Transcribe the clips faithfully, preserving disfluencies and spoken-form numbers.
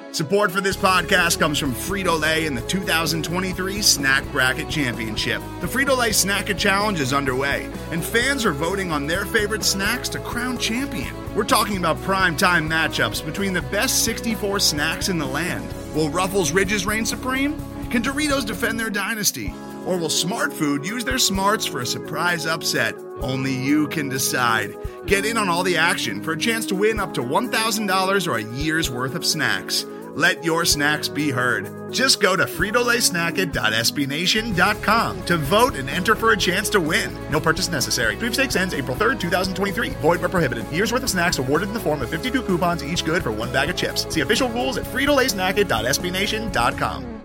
Support for this podcast comes from Frito-Lay and the two thousand twenty-three Snack Bracket Championship. The Frito-Lay Snack-It Challenge is underway, and fans are voting on their favorite snacks to crown champion. We're talking about prime-time matchups between the best sixty-four snacks in the land. Will Ruffles Ridges reign supreme? Can Doritos defend their dynasty? Or will Smart Food use their smarts for a surprise upset? Only you can decide. Get in on all the action for a chance to win up to one thousand dollars or a year's worth of snacks. Let your snacks be heard. Just go to Frito Lay Snack It dot S B Nation dot com to vote and enter for a chance to win. No purchase necessary. Sweepstakes ends April third, twenty twenty-three. Void where prohibited. Year's worth of snacks awarded in the form of fifty-two coupons, each good for one bag of chips. See official rules at Frito Lay Snack It dot S B Nation dot com.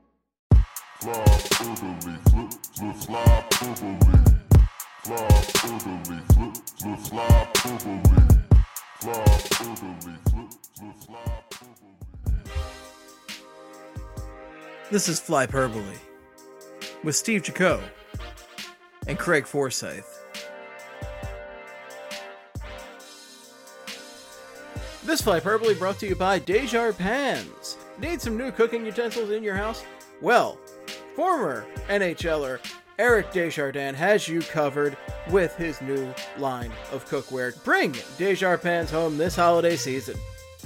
This is Flyperbole with Steve Jaco and Craig Forsyth. This Flyperbole brought to you by Desjardins. Need some new cooking utensils in your house? Well, former NHLer Eric Desjardins has you covered with his new line of cookware. Bring Desjardins home this holiday season.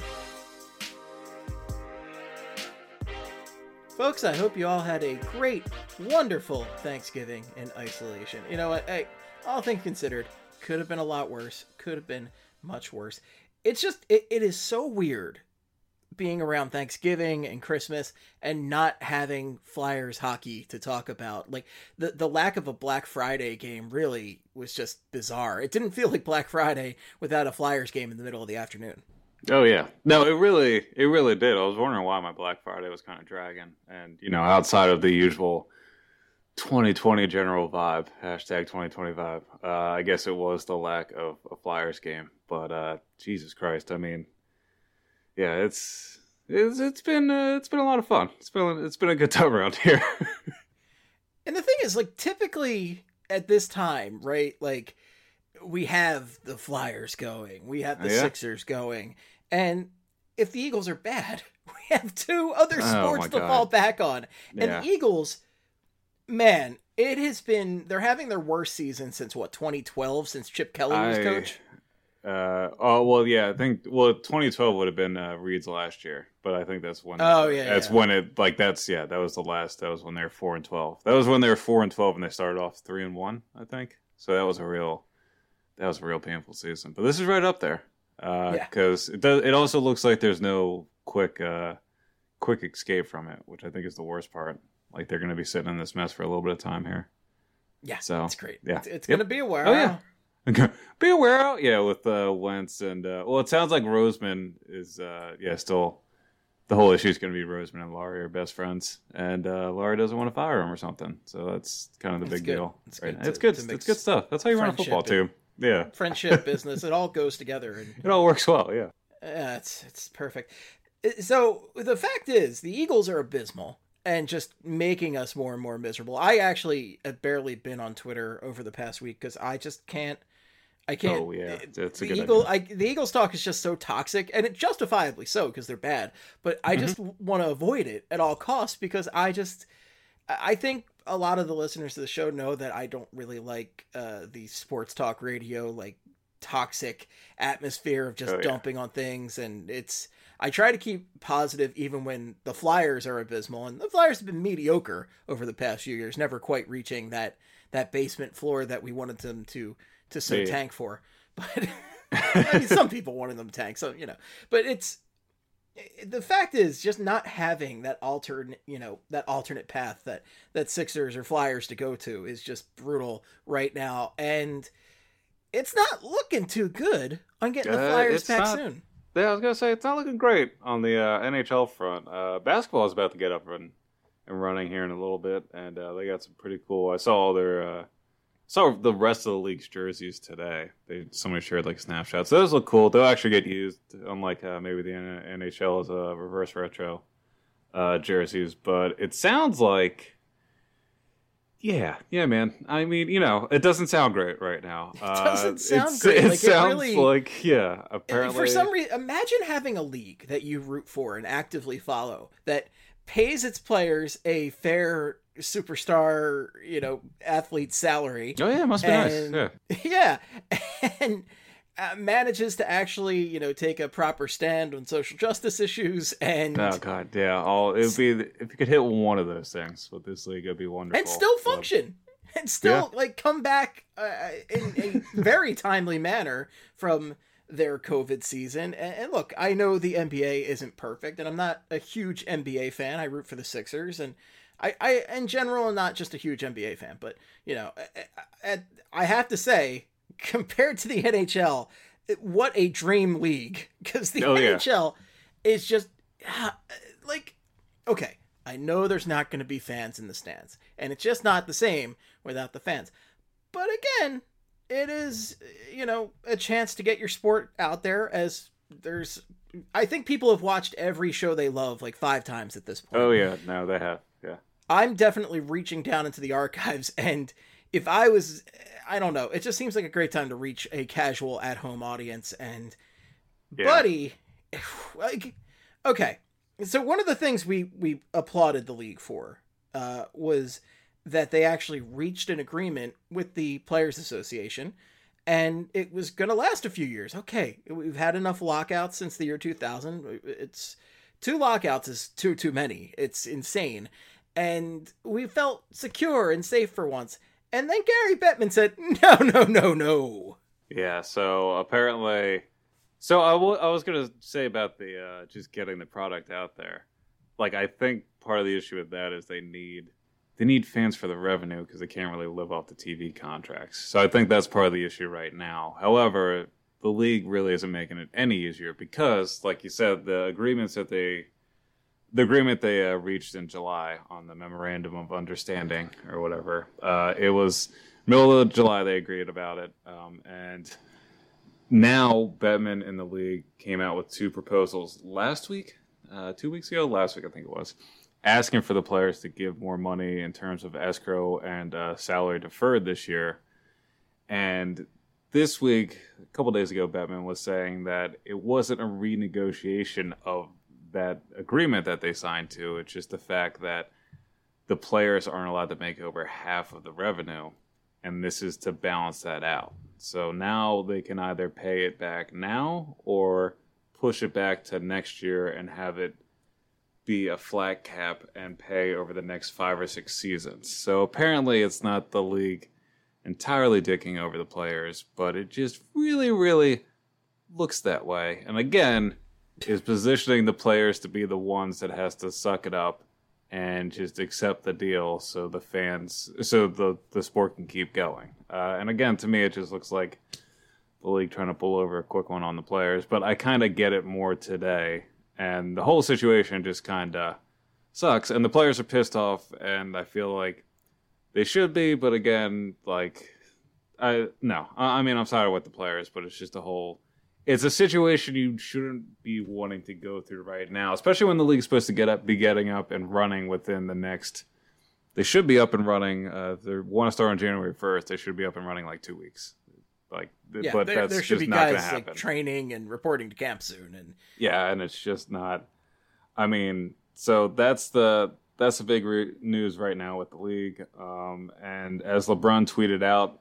Folks, I hope you all had a great, wonderful Thanksgiving in isolation. You know what? Hey, all things considered, could have been a lot worse. Could have been much worse. It's just, it, it is so weird being around Thanksgiving and Christmas and not having Flyers hockey to talk about. Like, the, the lack of a Black Friday game really was just bizarre. It didn't feel like Black Friday without a Flyers game in the middle of the afternoon. Oh yeah, no, it really, it really did. I was wondering why my Black Friday was kind of dragging, and you know, outside of the usual twenty twenty general vibe, hashtag twenty twenty-five. Uh, I guess it was the lack of a Flyers game, but uh, Jesus Christ, I mean, yeah, it's it's it's been uh, it's been a lot of fun. It's been it's been a good time around here. And the thing is, like, typically at this time, right, like, we have the Flyers going, we have the oh, yeah? Sixers going, and if the Eagles are bad, we have two other sports oh to God. fall back on. Yeah. And the Eagles, man, it has been, they're having their worst season since, what, twenty twelve, since Chip Kelly was I, coach? Uh, oh, well, yeah, I think, well, twenty twelve would have been uh, Reed's last year, but I think that's when, oh, yeah, that's yeah. when it, like, that's, yeah, that was the last, that was when they were four and twelve. That was when they were four and twelve and they started off three and one, I think. So that was a real, that was a real painful season. But this is right up there. Uh, yeah. Because it does, it also looks like there's no quick, uh, quick escape from it, which I think is the worst part. Like, they're going to be sitting in this mess for a little bit of time here. Yeah, so that's great. Yeah. It's, it's yep. going to be a while. Oh, yeah. Be aware, yeah, with uh, Wentz and uh, well, it sounds like Roseman is, uh, yeah, still the whole issue is going to be Roseman and Laurie are best friends, and uh, Laurie doesn't want to fire him or something. So that's kind of the it's big good. deal. It's right? good. To, it's good. to It's good stuff. That's how you run a football team. Yeah, friendship, business, it all goes together, and it all works well. Yeah, yeah, it's it's perfect. So the fact is, the Eagles are abysmal and just making us more and more miserable. I actually have barely been on Twitter over the past week because I just can't. I can't. Oh yeah, that's a the good Eagle. idea. I, the Eagles talk is just so toxic, and it justifiably so because they're bad. But I mm-hmm. just want to avoid it at all costs because I just, I think a lot of the listeners to the show know that I don't really like uh, the sports talk radio like toxic atmosphere of just oh, yeah. dumping on things, and it's. I try to keep positive even when the Flyers are abysmal, and the Flyers have been mediocre over the past few years, never quite reaching that that basement floor that we wanted them to. to so yeah. tank for, but I mean, some people wanted them to tank, so, you know, but it's, the fact is just not having that alternate, you know, that alternate path that, that Sixers or Flyers to go to is just brutal right now. And it's not looking too good on getting the Flyers uh, back not, soon. Yeah, I was going to say, it's not looking great on the uh, N H L front. Uh, basketball is about to get up and, and running here in a little bit. And uh, they got some pretty cool, I saw all their, uh, saw the rest of the league's jerseys today. They somebody shared like snapshots. Those look cool. They'll actually get used, unlike uh, maybe the N H L as a reverse. reverse retro uh, jerseys, but it sounds like, Yeah, yeah, man. I mean, you know, it doesn't sound great right now. It doesn't uh, sound great. It Like, it sounds really, like, yeah, apparently. For some reason, imagine having a league that you root for and actively follow that pays its players a fair superstar, you know, athlete salary. Oh, yeah, it must be and, nice. Yeah. Yeah. And uh, manages to actually, you know, take a proper stand on social justice issues. And oh, God, yeah. All, it would be, if you could hit one of those things with this league, it would be wonderful. And still but... function. And still, yeah. like, come back uh, in a very timely manner from their COVID season. And, and look, I know the N B A isn't perfect, and I'm not a huge N B A fan. I root for the Sixers, and I, I in general, am not just a huge N B A fan. But, you know, I, I, I have to say, compared to the N H L, what a dream league. Because the oh, N H L yeah. is just, uh, like, okay, I know there's not going to be fans in the stands, and it's just not the same without the fans. But again, it is, you know, a chance to get your sport out there, as there's, I think people have watched every show they love like five times at this point. Oh, yeah. No, they have. Yeah. I'm definitely reaching down into the archives, and if I was, I don't know, it just seems like a great time to reach a casual at-home audience. And, yeah. buddy, like, okay. So one of the things we, we applauded the league for uh, was that they actually reached an agreement with the Players Association, and it was going to last a few years. Okay, we've had enough lockouts since the year two thousand. It's two lockouts is too, too many. It's insane. And we felt secure and safe for once. And then Gary Bettman said, no, no, no, no. Yeah, so apparently... So I, w- I was going to say about the uh, just getting the product out there. Like, I think part of the issue with that is they need they need fans for the revenue because they can't really live off the T V contracts. So I think that's part of the issue right now. However, the league really isn't making it any easier because, like you said, the agreements that they the agreement they uh, reached in July on the Memorandum of Understanding or whatever, uh, it was middle of July they agreed about it, um, and now Bettman and the league came out with two proposals last week, uh, two weeks ago, last week I think it was, asking for the players to give more money in terms of escrow and uh, salary deferred this year. And this week, a couple days ago, Bettman was saying that it wasn't a renegotiation of that agreement that they signed to. It's just the fact that the players aren't allowed to make over half of the revenue, and this is to balance that out. So now they can either pay it back now or push it back to next year and have it be a flat cap and pay over the next five or six seasons. So apparently it's not the league entirely dicking over the players, but it just really, really looks that way. And again, is positioning the players to be the ones that has to suck it up and just accept the deal so the fans, so the, the sport can keep going. Uh, and again, to me, it just looks like the league trying to pull over a quick one on the players. But I kind of get it more today. And the whole situation just kind of sucks. And the players are pissed off, and I feel like they should be. But again, like, I no. I, I mean, I'm sorry with the players, but it's just a whole... It's a situation you shouldn't be wanting to go through right now, especially when the league's supposed to get up, be getting up and running within the next. They should be up and running. Uh, they want to start on January first. They should be up and running like two weeks. Like, yeah, but there, that's there should just be not guys going to happen. Like training and reporting to camp soon, and yeah, and it's just not. I mean, so that's the that's the big re- news right now with the league. Um, and as LeBron tweeted out,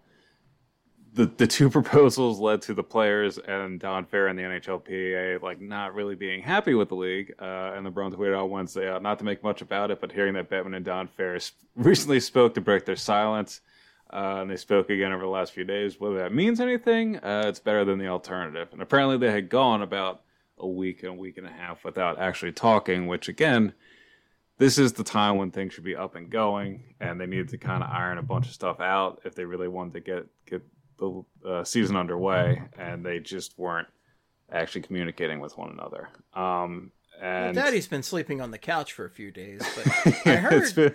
the the two proposals led to the players and Don Fair and the N H L P A like not really being happy with the league. Uh, and LeBron tweeted out Wednesday, uh, not to make much about it, but hearing that Bettman and Don Fair sp- recently spoke to break their silence. Uh, and they spoke again over the last few days. Whether that means anything, uh, it's better than the alternative. And apparently they had gone about a week and a week and a half without actually talking, which, again, this is the time when things should be up and going, and they needed to kind of iron a bunch of stuff out if they really wanted to get, get the uh, season underway, and they just weren't actually communicating with one another. Um, and well, Daddy's been sleeping on the couch for a few days, but I heard, been...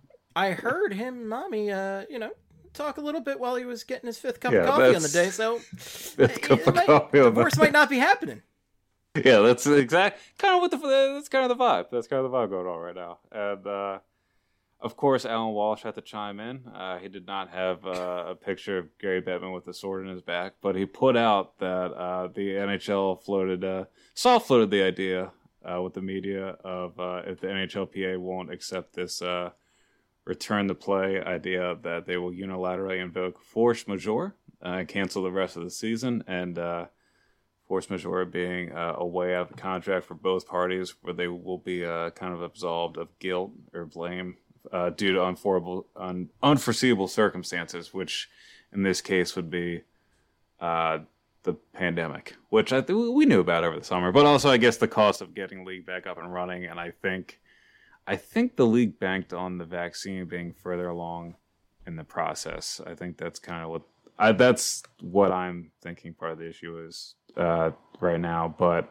I heard him, Mommy, uh, you know, talk a little bit while he was getting his fifth cup yeah, of coffee on the day, so fifth cup of might, coffee divorce might not be happening. Yeah, that's exact kind of what the that's kind of the vibe. That's kind of the vibe going on right now. And uh, Of course, Alan Walsh had to chime in. Uh, he did not have uh, a picture of Gary Bettman with a sword in his back, but he put out that uh, the N H L floated, uh, soft floated the idea uh, with the media of uh, if the N H L P A won't accept this uh, return to play idea, that they will unilaterally invoke force majeure uh, and cancel the rest of the season. And uh, force majeure being uh, a way out of the contract for both parties where they will be uh, kind of absolved of guilt or blame uh, due to unforeseeable, un- unforeseeable circumstances, which in this case would be uh, the pandemic, which I th- we knew about over the summer, but also I guess the cost of getting the league back up and running. And I think, I think the league banked on the vaccine being further along in the process. I think that's kind of what I, that's what I'm thinking part of the issue is uh, right now. But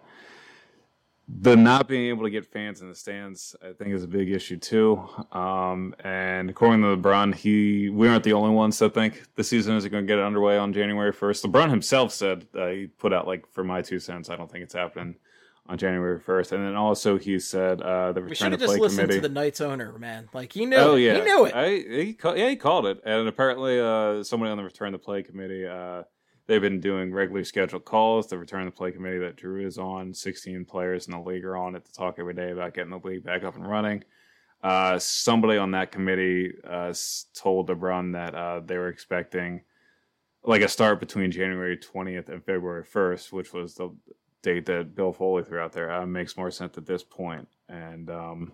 the not being able to get fans in the stands, I think, is a big issue too. Um, and according to LeBron, he we aren't the only ones that think the season isn't going to get underway on January first. LeBron himself said uh, he put out, like, for my two cents, I don't think it's happening on January first. And then also he said uh, the return to play committee. We should have just listened to the Knights owner, man. Like, he knew oh, it. Yeah. He knew it. I, he, yeah, he called it. And apparently uh, somebody on the return to play committee, uh, they've been doing regularly scheduled calls. The return to play committee that Drew is on, sixteen players in the league are on it to talk every day about getting the league back up and running. Uh, somebody on that committee uh, told LeBron that uh, they were expecting like a start between January twentieth and February first, which was the date that Bill Foley threw out there. Uh, makes more sense at this point. And um,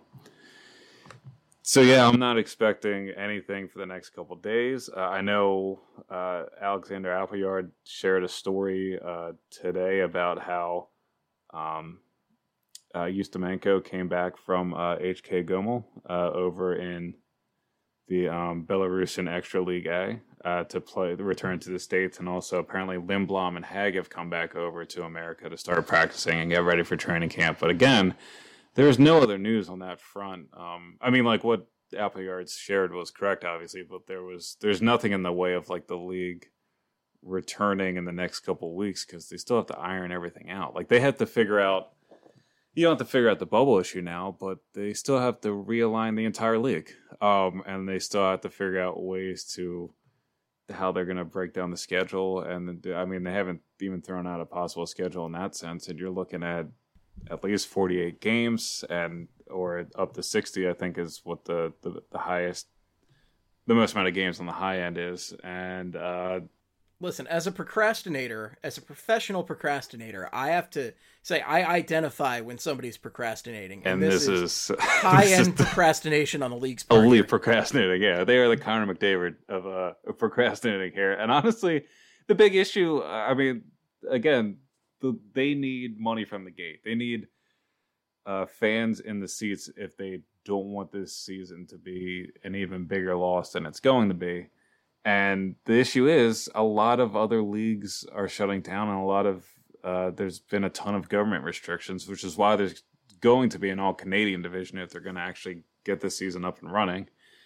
so, yeah, I'm not expecting anything for the next couple of days. Uh, I know uh, Alexander Appleyard shared a story uh, today about how um, uh, Ustimenko came back from uh, H K Gomel uh, over in the um, Belarusian Extra League A uh, to play the return to the States. And also apparently Lindblom and Hag have come back over to America to start practicing and get ready for training camp. But again, there's no other news on that front. Um, I mean, like what Appleyard shared was correct, obviously, but there was there's nothing in the way of like the league returning in the next couple of weeks because they still have to iron everything out. Like they have to figure out, you don't have to figure out the bubble issue now, but they still have to realign the entire league. Um, and they still have to figure out ways to how they're going to break down the schedule. And I mean, they haven't even thrown out a possible schedule in that sense. And you're looking at at least forty-eight games and or up to sixty, I think is what the, the, the highest, the most amount of games on the high end is. And, uh, listen, as a procrastinator, as a professional procrastinator, I have to say I identify when somebody's procrastinating. And, and this, this is, is high-end procrastination on the league's part. Elite procrastinating, yeah. They are the Connor McDavid of uh, procrastinating here. And honestly, the big issue, I mean, again, the, they need money from the gate. They need uh, fans in the seats if they don't want this season to be an even bigger loss than it's going to be. And the issue is a lot of other leagues are shutting down, and a lot of uh, there's been a ton of government restrictions, which is why there's going to be an all-Canadian division if they're going to actually get this season up and running.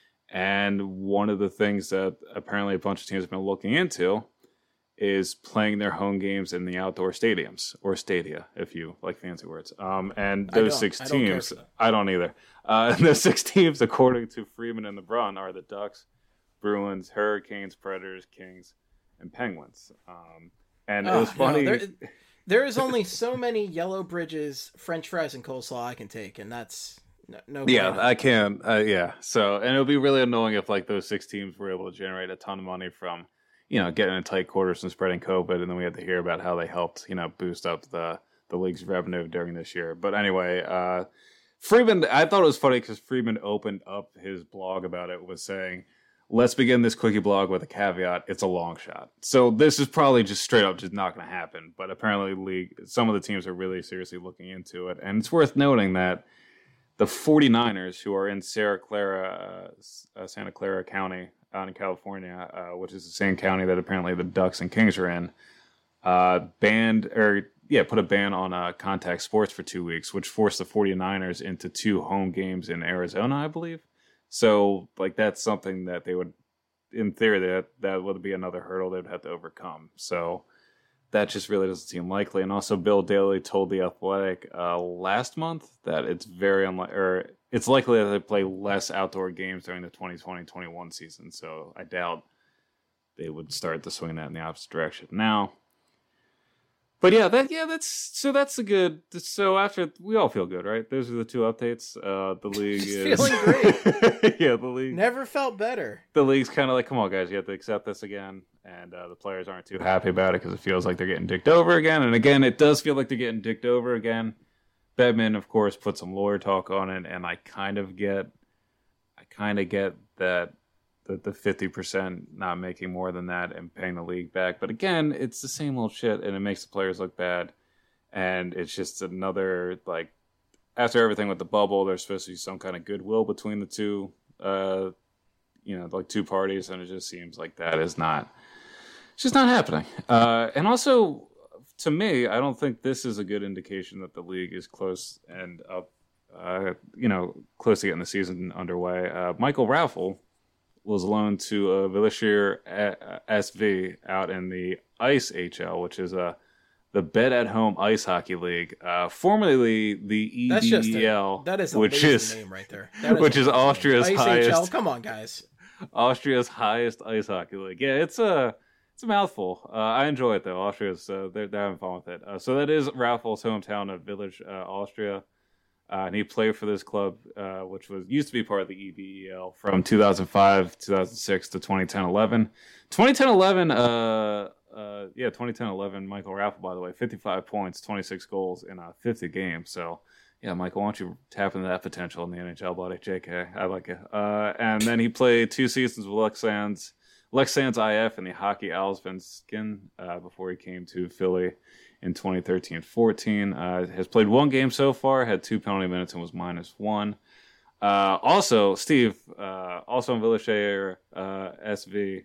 And one of the things that apparently a bunch of teams have been looking into is playing their home games in the outdoor stadiums, or stadia, if you like fancy words. Um, and those six I teams, I don't either. Uh, and those six teams, according to Freeman and LeBron, are the Ducks, Bruins, Hurricanes, Predators, Kings, and Penguins. Um, and oh, it was funny. No, there, there is only so many Yellow Bridges, French fries, and coleslaw I can take, and that's no. no yeah, I can. Uh, yeah. So, and it would be really annoying if like those six teams were able to generate a ton of money from, you know, getting in tight quarters and spreading COVID, and then we had to hear about how they helped, you know, boost up the the league's revenue during this year. But anyway, uh, Freeman, I thought it was funny because Freeman opened up his blog about it, was saying, let's begin this quickie blog with a caveat. It's a long shot. So this is probably just straight up just not going to happen. But apparently league, some of the teams are really seriously looking into it. And it's worth noting that the 49ers, who are in Santa Clara, uh, Santa Clara County out in California, uh, which is the same county that apparently the Ducks and Kings are in, uh, banned or yeah, put a ban on uh, contact sports for two weeks, which forced the 49ers into two home games in Arizona, I believe. So, like, that's something that they would, in theory, that that would be another hurdle they would have to overcome. So, that just really doesn't seem likely. And also, Bill Daly told The Athletic uh, last month that it's very unlikely, or it's likely that they play less outdoor games during the twenty twenty twenty-one season. So I doubt they would start to swing that in the opposite direction now. But yeah, that yeah, that's so that's a good. So after we all feel good, right? Those are the two updates. Uh, the league is feeling great. Yeah, the league never felt better. The league's kind of like, come on, guys, you have to accept this again. And uh, the players aren't too happy about it because it feels like they're getting dicked over again. And again, it does feel like they're getting dicked over again. Bedman, of course, put some lawyer talk on it, and I kind of get, I kind of get that. The, the fifty percent not making more than that and paying the league back. But again, it's the same old shit, and it makes the players look bad. And it's just another, like, after everything with the bubble, there's supposed to be some kind of goodwill between the two, uh, you know, like two parties, and it just seems like that is not, it's just not happening. Uh, and also, to me, I don't think this is a good indication that the league is close and up, uh, you know, close to getting the season underway. Uh, Michael Raffel was loaned to uh, Villashir S V out in the Ice H L, which is uh, the Bet at Home Ice Hockey League, uh, formerly the E B E L. That's just a, that is a which is name right there. Is which is Austria's Ice highest. H L. Come on, guys. Austria's highest ice hockey league. Yeah, it's a it's a mouthful. Uh, I enjoy it though. Austria's uh, they're they're having fun with it. Uh, so that is Raffel's hometown of Village, uh, Austria. Uh, and he played for this club, uh, which was used to be part of the E B E L from two thousand five, two thousand six to twenty ten eleven. twenty ten eleven, uh, uh, yeah, twenty ten eleven, Michael Raffel, by the way, fifty-five points, twenty-six goals in uh, fifty games. So, yeah, Michael, why don't you tap into that potential in the N H L, buddy? J K, I like it. Uh, and then he played two seasons with Leksand's, Leksand's I F and the Hockey Allsvenskan uh, before he came to Philly in twenty thirteen fourteen. Uh, has played one game so far, had two penalty minutes, and was minus one. Uh, also, Steve, uh, also in Villashir uh, S V,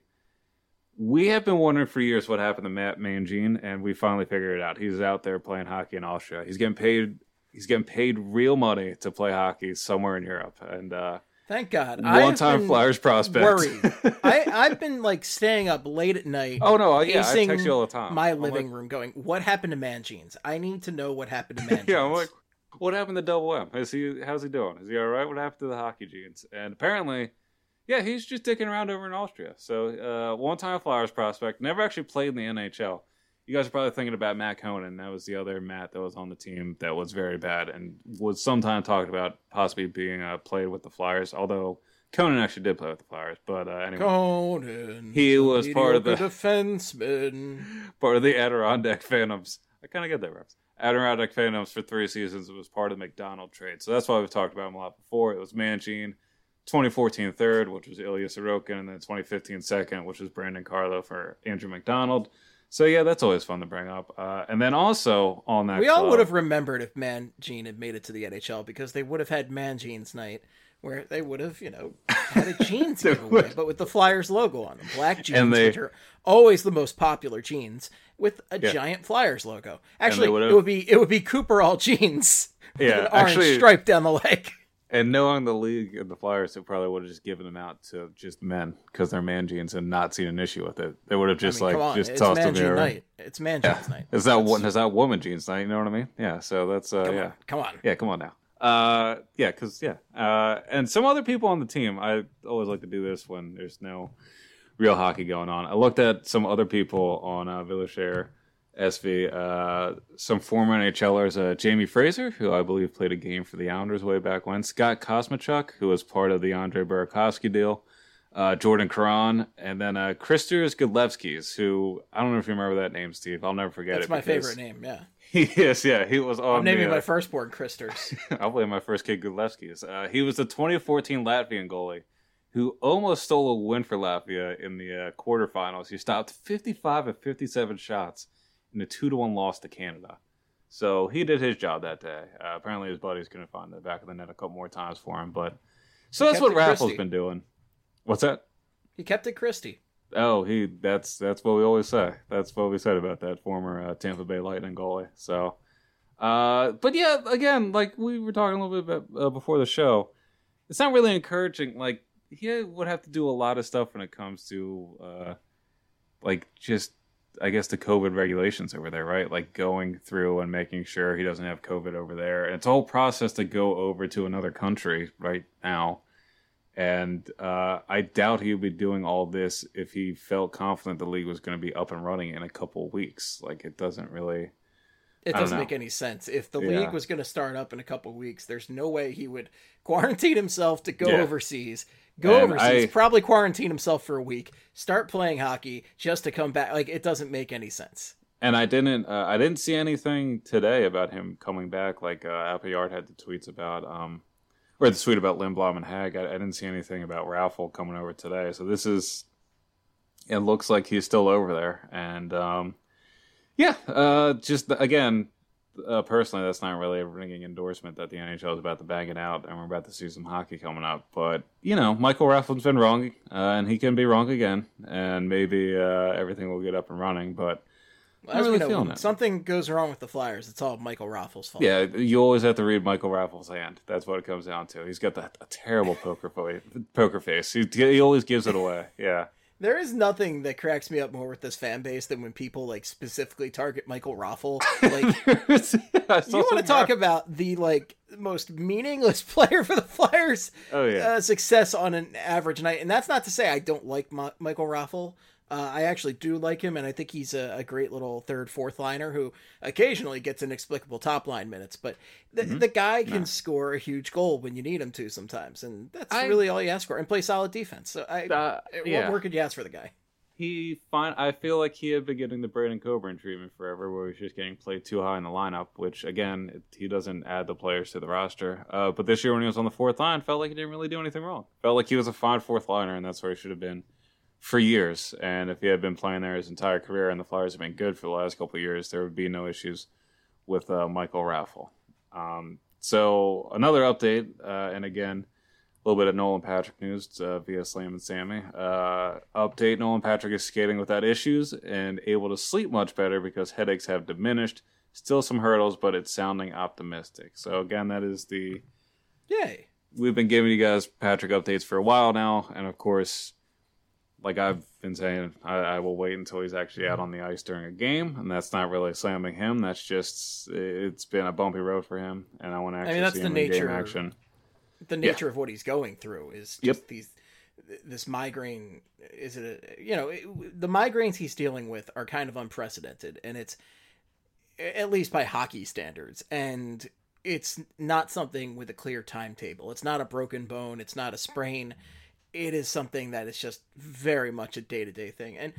we have been wondering for years what happened to Matt Mangine, and we finally figured it out. He's out there playing hockey in Austria. He's getting paid. He's getting paid real money to play hockey somewhere in Europe, and uh, thank God. One-time Flyers prospect. Worried. I, I've been like staying up late at night. Oh no, yeah, I text you all the time. My I'm living like, room, going, what happened to Mangines? I need to know what happened to Mangines. Yeah, I'm like, what happened to Double M? Is he? How's he doing? Is he all right? What happened to the hockey jeans? And apparently, yeah, he's just dicking around over in Austria. So, uh, one-time Flyers prospect, never actually played in the N H L. You guys are probably thinking about Matt Conan. That was the other Matt that was on the team that was very bad and was sometime talked about possibly being uh, played with the Flyers. Although Conan actually did play with the Flyers, but uh, anyway, Conan, he was part of the defenseman, part of the Adirondack Phantoms. I kind of get that reference. Adirondack Phantoms for three seasons. It was part of the McDonald trade, so that's why we've talked about him a lot before. It was Mangine, twenty fourteen third, which was Ilya Sorokin, and then twenty fifteen second, which was Brandon Carlo for Andrew McDonald. So yeah, that's always fun to bring up. Uh, and then also on that, we all club, would have remembered if Mangine had made it to the N H L because they would have had Mangine's night, where they would have, you know, had a jeans giveaway, but with the Flyers logo on them, black jeans, they, which are always the most popular jeans, with a yeah. giant Flyers logo. Actually, it would be it would be Cooper all jeans, yeah, with an orange actually, stripe down the leg. And knowing the league and the Flyers, they probably would have just given them out to just men because they're man jeans and not seen an issue with it. They would have just I mean, like just it's tossed man them there. Night. It's man jeans yeah. night. Is that one? Is that woman jeans night? You know what I mean? Yeah. So that's uh, come yeah. On, come on. Yeah, come on now. Uh, yeah, because yeah, uh, and some other people on the team. I always like to do this when there's no real hockey going on. I looked at some other people on uh, Villashir S V, uh, some former NHLers, uh, Jamie Fraser, who I believe played a game for the Islanders way back when, Scott Kosmachuk, who was part of the Andre Burakovsky deal, uh, Jordan Caron, and then uh, Kristers Godlevskis, who I don't know if you remember that name, Steve. I'll never forget That's it. That's my favorite name, yeah. He is, yeah. He was on I'm naming the, uh, my firstborn Kristers. I'll play my first kid Godlevskis. Uh, he was the twenty fourteen Latvian goalie who almost stole a win for Latvia in the uh, quarterfinals. He stopped fifty-five of fifty-seven shots in a two to one loss to Canada. So he did his job that day. Uh, apparently his buddies couldn't find the back of the net a couple more times for him. But so that's what Raffle's been doing. What's that? He kept it Christie. Oh, he that's that's what we always say. That's what we said about that former uh, Tampa Bay Lightning goalie. So, uh, but yeah, again, like we were talking a little bit about, uh, before the show, it's not really encouraging. Like he would have to do a lot of stuff when it comes to uh, like just I guess, the COVID regulations over there, right? Like going through and making sure he doesn't have COVID over there. And it's a whole process to go over to another country right now. And uh, I doubt he would be doing all this if he felt confident the league was going to be up and running in a couple of weeks. Like, it doesn't really... It doesn't make any sense. If the Yeah. league was going to start up in a couple of weeks, there's no way he would quarantine himself to go Yeah. overseas. Go And overseas, I- probably quarantine himself for a week, start playing hockey just to come back. Like, it doesn't make any sense. And I didn't, uh, I didn't see anything today about him coming back. Like uh, Appleyard had the tweets about, um, or the tweet about Lindblom and Hag. I, I didn't see anything about Raffle coming over today. So this is, it looks like he's still over there. And um, yeah, uh, just again, uh, personally, that's not really a ringing endorsement that the N H L is about to bang it out, and we're about to see some hockey coming up. But you know, Michael Raffle's been wrong, uh, and he can be wrong again, and maybe uh, everything will get up and running. But Well, I'm as really we know, feeling when it. something goes wrong with the Flyers, it's all Michael Raffle's fault. Yeah, you always have to read Michael Raffle's hand. That's what it comes down to. He's got that a terrible poker face. Poker face. He, he always gives it away. Yeah. There is nothing that cracks me up more with this fan base than when people like specifically target Michael Raffle. Like, you want to talk about the like most meaningless player for the Flyers? Oh yeah. Uh, success on an average night, and that's not to say I don't like Ma- Michael Raffle. Uh, I actually do like him, and I think he's a, a great little third, fourth liner who occasionally gets inexplicable top line minutes. But the, Mm-hmm. the guy can No. score a huge goal when you need him to sometimes, and that's I- really all you ask for. And play solid defense. So I, Uh, what yeah. more could you ask for the guy? He fine. I feel like he had been getting the Braden Coburn treatment forever, where he's just getting played too high in the lineup. Which again, it, he doesn't add the players to the roster. Uh, but this year, when he was on the fourth line, felt like he didn't really do anything wrong. Felt like he was a fine fourth liner, and that's where he should have been for years. And if he had been playing there his entire career, and the Flyers have been good for the last couple of years, there would be no issues with uh, Michael Raffle. Um, so another update, uh, and again, a little bit of Nolan Patrick news uh, via Slam and Sammy. Uh, update: Nolan Patrick is skating without issues and able to sleep much better because headaches have diminished. Still some hurdles, but it's sounding optimistic. So again, that is the... Yay. We've been giving you guys Patrick updates for a while now, and of course, like I've been saying, I, I will wait until he's actually out on the ice during a game, and that's not really slamming him. That's just, it's been a bumpy road for him, and I want to actually mean, that's see the him in game nature- action. The nature of what he's going through is just Yep. these this migraine. Is it a, you know it, the migraines he's dealing with are kind of unprecedented, and it's at least by hockey standards, and it's not something with a clear timetable. It's not a broken bone. It's not a sprain. It is something that is just very much a day to day thing, and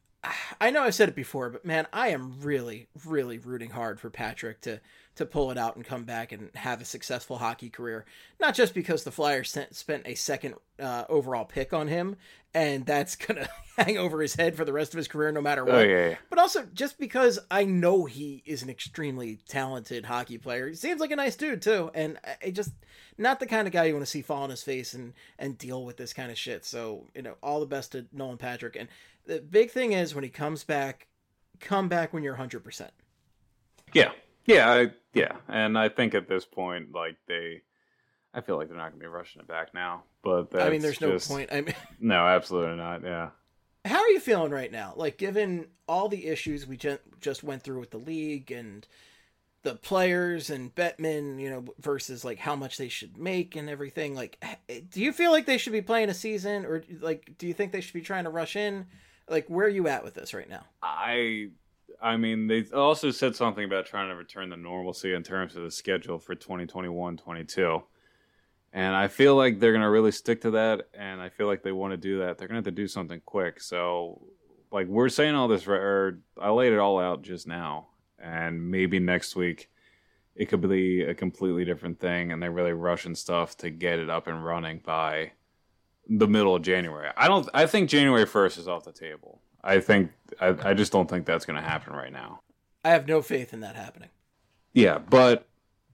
I know I've said it before, but man, I am really, really rooting hard for Patrick to to pull it out and come back and have a successful hockey career. Not just because the Flyers sent, spent a second uh, overall pick on him, and that's gonna hang over his head for the rest of his career, no matter what. Oh, yeah, yeah. But also just because I know he is an extremely talented hockey player. He seems like a nice dude too, and I I just not the kind of guy you want to see fall on his face and and deal with this kind of shit. So you know, all the best to Nolan Patrick. And the big thing is when he comes back, come back when you're one hundred percent. Yeah, yeah, I, yeah. And I think at this point, like they, I feel like they're not going to be rushing it back now. But that's I mean, there's no just- point. I mean, No, absolutely not. Yeah. how are you feeling right now? Like, given all the issues we ju- just went through with the league and the players and Bettman, you know, versus like how much they should make and everything. Like, do you feel like they should be playing a season, or like, do you think they should be trying to rush in? Like, where are you at with this right now? I I mean, they also said something about trying to return to normalcy in terms of the schedule for twenty twenty-one twenty-two. And I feel like they're going to really stick to that, and I feel like they want to do that. They're going to have to do something quick. So, like, we're saying all this, or I laid it all out just now, and maybe next week it could be a completely different thing, and they're really rushing stuff to get it up and running by the middle of January. I don't. I think January first is off the table. I think. I, I just don't think that's going to happen right now. I have no faith in that happening. Yeah, but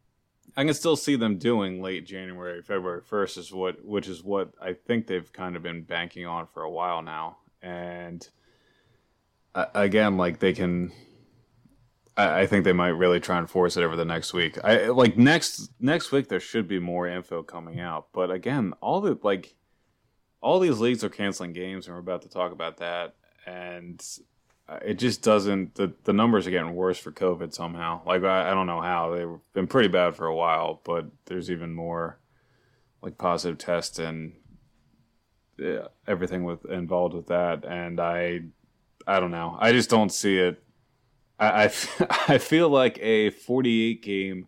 I can still see them doing late January, February first is what, which is what I think they've kind of been banking on for a while now. And uh, again, like they can. I, I think they might really try and force it over the next week. I like next next week there should be more info coming out. But again, all the like. All these leagues are canceling games, and we're about to talk about that. And it just doesn't. The, the numbers are getting worse for COVID somehow. Like I, I don't know how. They've been pretty bad for a while, but there's even more like positive tests and yeah, everything with involved with that. And I, I don't know. I just don't see it. I, I, I feel like a forty-eight game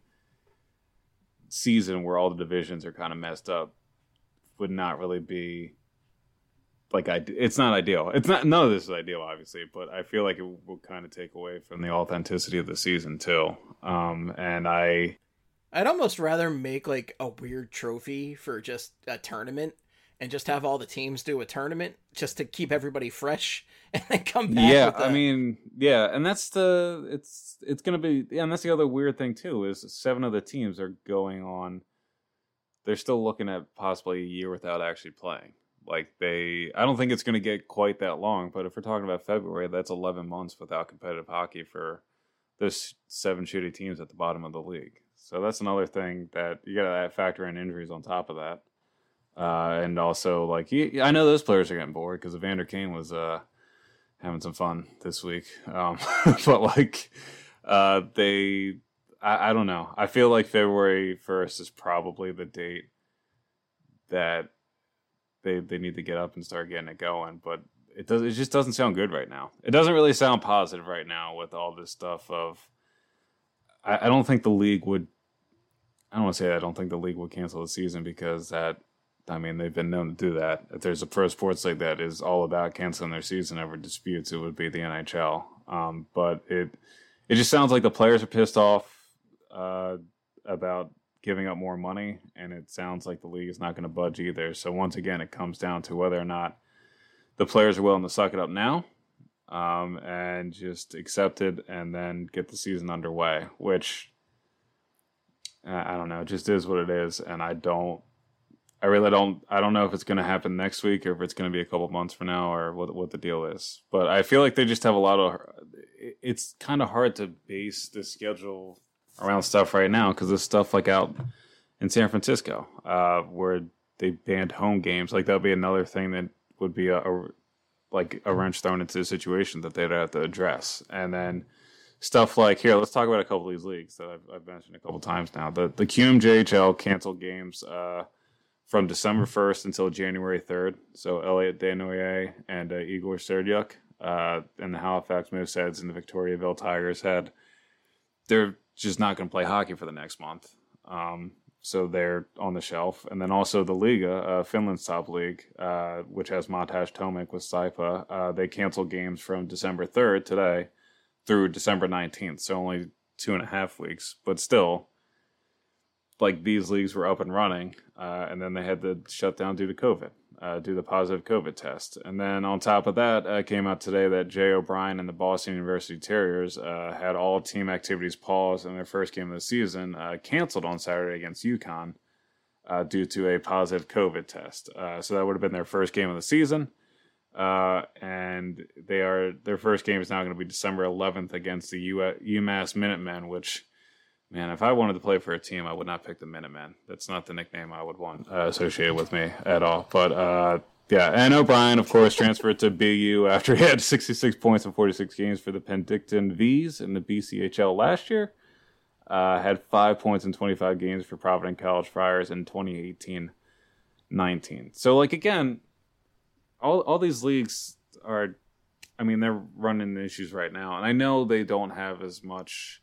season where all the divisions are kind of messed up would not really be like I. It's not ideal. It's not. None of this is ideal, obviously, but I feel like it will kind of take away from the authenticity of the season too. Um, and I, I'd almost rather make like a weird trophy for just a tournament and just have all the teams do a tournament just to keep everybody fresh and then come back. Yeah, with the... I mean, yeah, and that's the it's it's gonna be yeah, and that's the other weird thing too is seven of the teams are going on. They're still looking at possibly a year without actually playing. Like they, I don't think it's going to get quite that long. But if we're talking about February, that's eleven months without competitive hockey for those seven shitty teams at the bottom of the league. So that's another thing that you got to factor in injuries on top of that. Uh, and also, like, he, I know those players are getting bored because Evander Kane was uh, having some fun this week. Um, but, like, uh, they, I, I don't know. I feel like February first is probably the date that they they need to get up and start getting it going. But it does. It just doesn't sound good right now. It doesn't really sound positive right now with all this stuff of, I, I don't think the league would, I don't want to say that I don't think the league would cancel the season because that, I mean, they've been known to do that. If there's a pro sports league that is all about canceling their season over disputes, it would be the N H L. Um, but it it just sounds like the players are pissed off uh, about giving up more money, and it sounds like the league is not going to budge either. So once again, it comes down to whether or not the players are willing to suck it up now um, and just accept it and then get the season underway, which I don't know, it just is what it is, and I don't. I really don't. I don't know if it's going to happen next week or if it's going to be a couple months from now or what what the deal is. But I feel like they just have a lot of. It's kind of hard to base the schedule around stuff right now because there's stuff like out in San Francisco uh, where they banned home games. Like that would be another thing that would be a, a like a wrench thrown into the situation that they'd have to address. And then stuff like here, let's talk about a couple of these leagues that I've, I've mentioned a couple times now. The the Q M J H L canceled games. Uh, From December first until January third. So Elliot Desnoyers and uh, Igor Serdyuk uh, and the Halifax Mooseheads and the Victoriaville Tigers had, they're just not going to play hockey for the next month. Um, so they're on the shelf. And then also the Liga, uh, Finland's top league, uh, which has Montage Tomic with Saipa, uh, they canceled games from December third today through December nineteenth. So only two and a half weeks. But still, like these leagues were up and running, uh, and then they had to shut down due to COVID, uh, due to the positive COVID test. And then on top of that, uh, came out today that Jay O'Brien and the Boston University Terriers uh, had all team activities paused in their first game of the season, uh, canceled on Saturday against UConn uh, due to a positive COVID test. Uh, so that would have been their first game of the season. Uh, and they are their first game is now going to be December eleventh against the U- UMass Minutemen, which... Man, if I wanted to play for a team, I would not pick the Minutemen. That's not the nickname I would want uh, associated with me at all. But, uh, yeah, and O'Brien, of course, transferred to B U after he had sixty-six points in forty-six games for the Penticton V's in the B C H L last year. Uh, had five points in twenty-five games for Providence College Friars in twenty eighteen nineteen. So, like, again, all all these leagues are, I mean, they're running issues right now. And I know they don't have as much...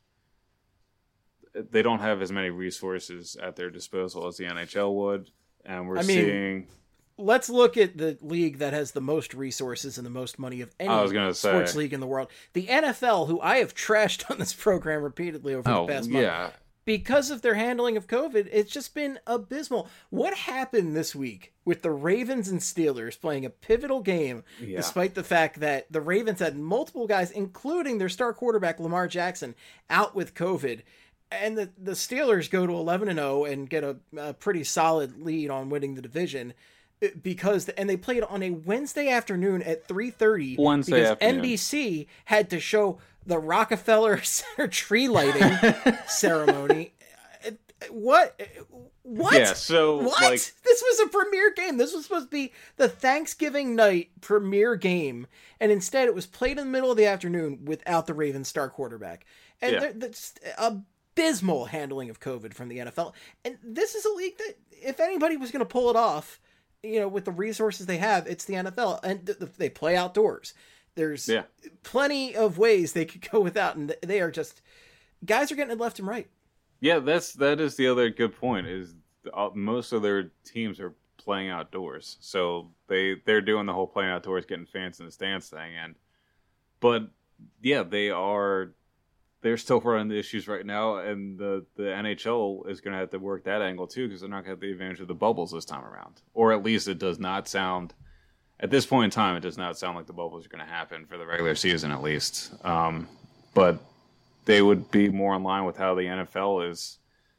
They don't have as many resources at their disposal as the N H L would, and we're I mean, seeing. Let's look at the league that has the most resources and the most money of any I was gonna say, sports league in the world. The N F L, who I have trashed on this program repeatedly over oh, the past month. Yeah. Because of their handling of COVID, it's just been abysmal. What happened this week with the Ravens and Steelers playing a pivotal game, yeah. despite the fact that the Ravens had multiple guys, including their star quarterback Lamar Jackson, out with COVID? And the, the Steelers go to eleven and oh and get a, a pretty solid lead on winning the division because and they played on a Wednesday afternoon at three thirty Wednesday because afternoon. N B C had to show the Rockefeller Center tree lighting ceremony. What? What? Yeah, so what? like This was a premiere game. This was supposed to be the Thanksgiving night premiere game, and instead it was played in the middle of the afternoon without the Ravens star quarterback. And yeah. that's abysmal handling of COVID from the N F L. And this is a league that, if anybody was going to pull it off, you know, with the resources they have, it's the N F L. And th- th- they play outdoors. There's yeah. plenty of ways they could go without, and they are just, guys are getting it left and right. Yeah, that's that is the other good point, is most of their teams are playing outdoors, so they they're doing the whole playing outdoors, getting fans in the stands thing. And but yeah, they are they're still running the issues right now, and the the N H L is going to have to work that angle too, because they're not going to have the advantage of the bubbles this time around, or at least it does not sound at this point in time it does not sound like the bubbles are going to happen for the regular season, at least. Um, but they would be more in line with how the N F L is.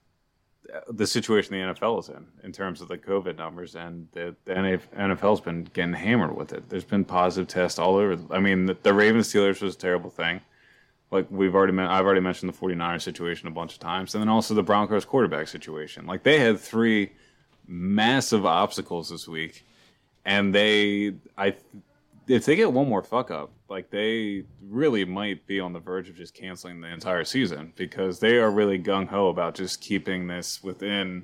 The situation the N F L is in, in terms of the COVID numbers, and the, the N F L's been getting hammered with it. There's been positive tests all over. I mean, the, the Ravens Steelers was a terrible thing. Like we've already, I've already mentioned the 49ers situation a bunch of times, and then also the Broncos quarterback situation. Like they had three massive obstacles this week, and they, I, if they get one more fuck up, like they really might be on the verge of just canceling the entire season, because they are really gung ho about just keeping this within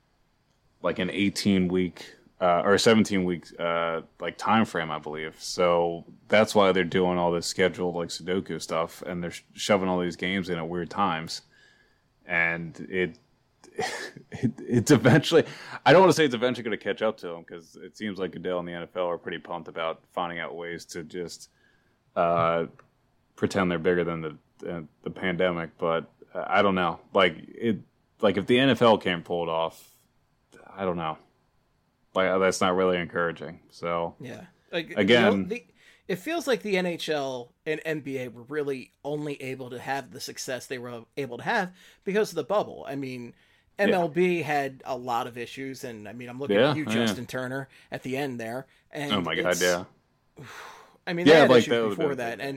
like an eighteen week uh, or seventeen week uh, like time frame, I believe. So that's why they're doing all this scheduled like Sudoku stuff, and they're shoving all these games in at weird times, and it. It, it's eventually, I don't want to say it's eventually going to catch up to them, because it seems like Goodell and the N F L are pretty pumped about finding out ways to just uh, pretend they're bigger than the, the the pandemic. But uh, I don't know. Like it, like if the N F L can't pull it off, I don't know. Like that's not really encouraging. So yeah, like, again, you know, the, it feels like the N H L and N B A were really only able to have the success they were able to have because of the bubble. I mean, M L B yeah. had a lot of issues, and I mean, I'm looking yeah, at you, Justin yeah. Turner, at the end there. And oh my god, yeah. I mean, they yeah, had like issues that before that, and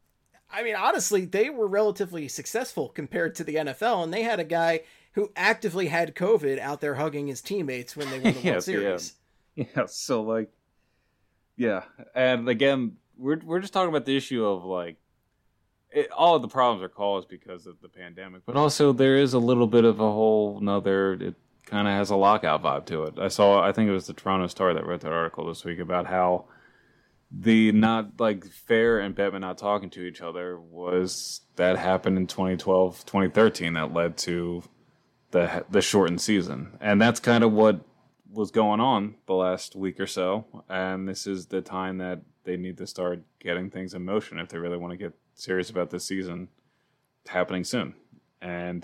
I mean, honestly, they were relatively successful compared to the N F L, and they had a guy who actively had COVID out there hugging his teammates when they won the yeah, World Series. Yeah. yeah, so like, yeah, and again, we're we're just talking about the issue of like. It, all of the problems are caused because of the pandemic, but also there is a little bit of a whole another, it kind of has a lockout vibe to it. I saw, I think it was the Toronto Star that wrote that article this week about how the not like Fair and Bettman not talking to each other was that happened in twenty twelve, twenty thirteen that led to the the shortened season. And that's kind of what was going on the last week or so. And this is the time that they need to start getting things in motion if they really want to get serious about this season happening soon. And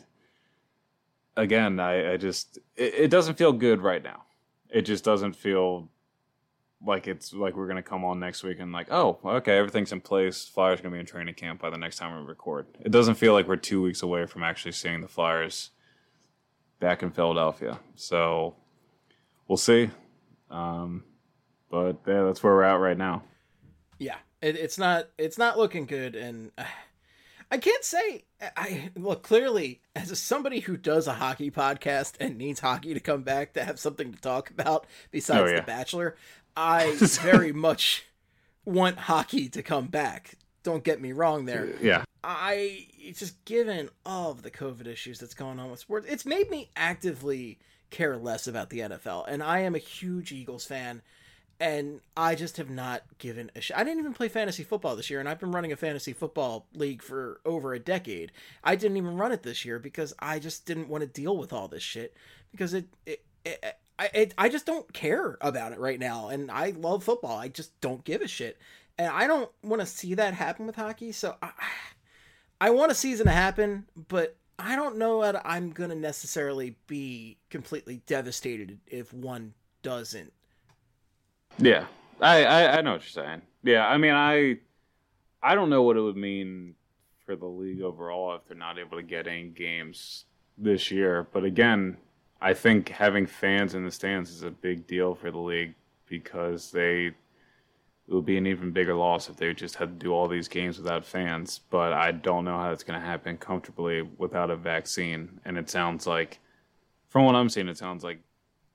again, I, I just it, it doesn't feel good right now. It just doesn't feel like it's like we're gonna come on next week and like, oh, okay, everything's in place. Flyers are gonna be in training camp by the next time we record. It doesn't feel like we're two weeks away from actually seeing the Flyers back in Philadelphia. So we'll see. Um, but yeah, that's where we're at right now. Yeah. It, it's not it's not looking good, and uh, I can't say I look clearly as a, somebody who does a hockey podcast and needs hockey to come back to have something to talk about besides oh, yeah. The Bachelor. I very much want hockey to come back. Don't get me wrong there. Yeah. I just given all of the COVID issues that's going on with sports, it's made me actively care less about the N F L, and I am a huge Eagles fan. And I just have not given a shit. I didn't even play fantasy football this year, and I've been running a fantasy football league for over a decade. I didn't even run it this year because I just didn't want to deal with all this shit, because it, it, it I, it, I just don't care about it right now. And I love football. I just don't give a shit. And I don't want to see that happen with hockey. So I, I want a season to happen, but I don't know that I'm going to necessarily be completely devastated if one doesn't. Yeah, I, I, I know what you're saying. Yeah, I mean, I I don't know what it would mean for the league overall if they're not able to get any games this year. But again, I think having fans in the stands is a big deal for the league, because they it would be an even bigger loss if they just had to do all these games without fans. But I don't know how it's going to happen comfortably without a vaccine. And it sounds like, from what I'm seeing, it sounds like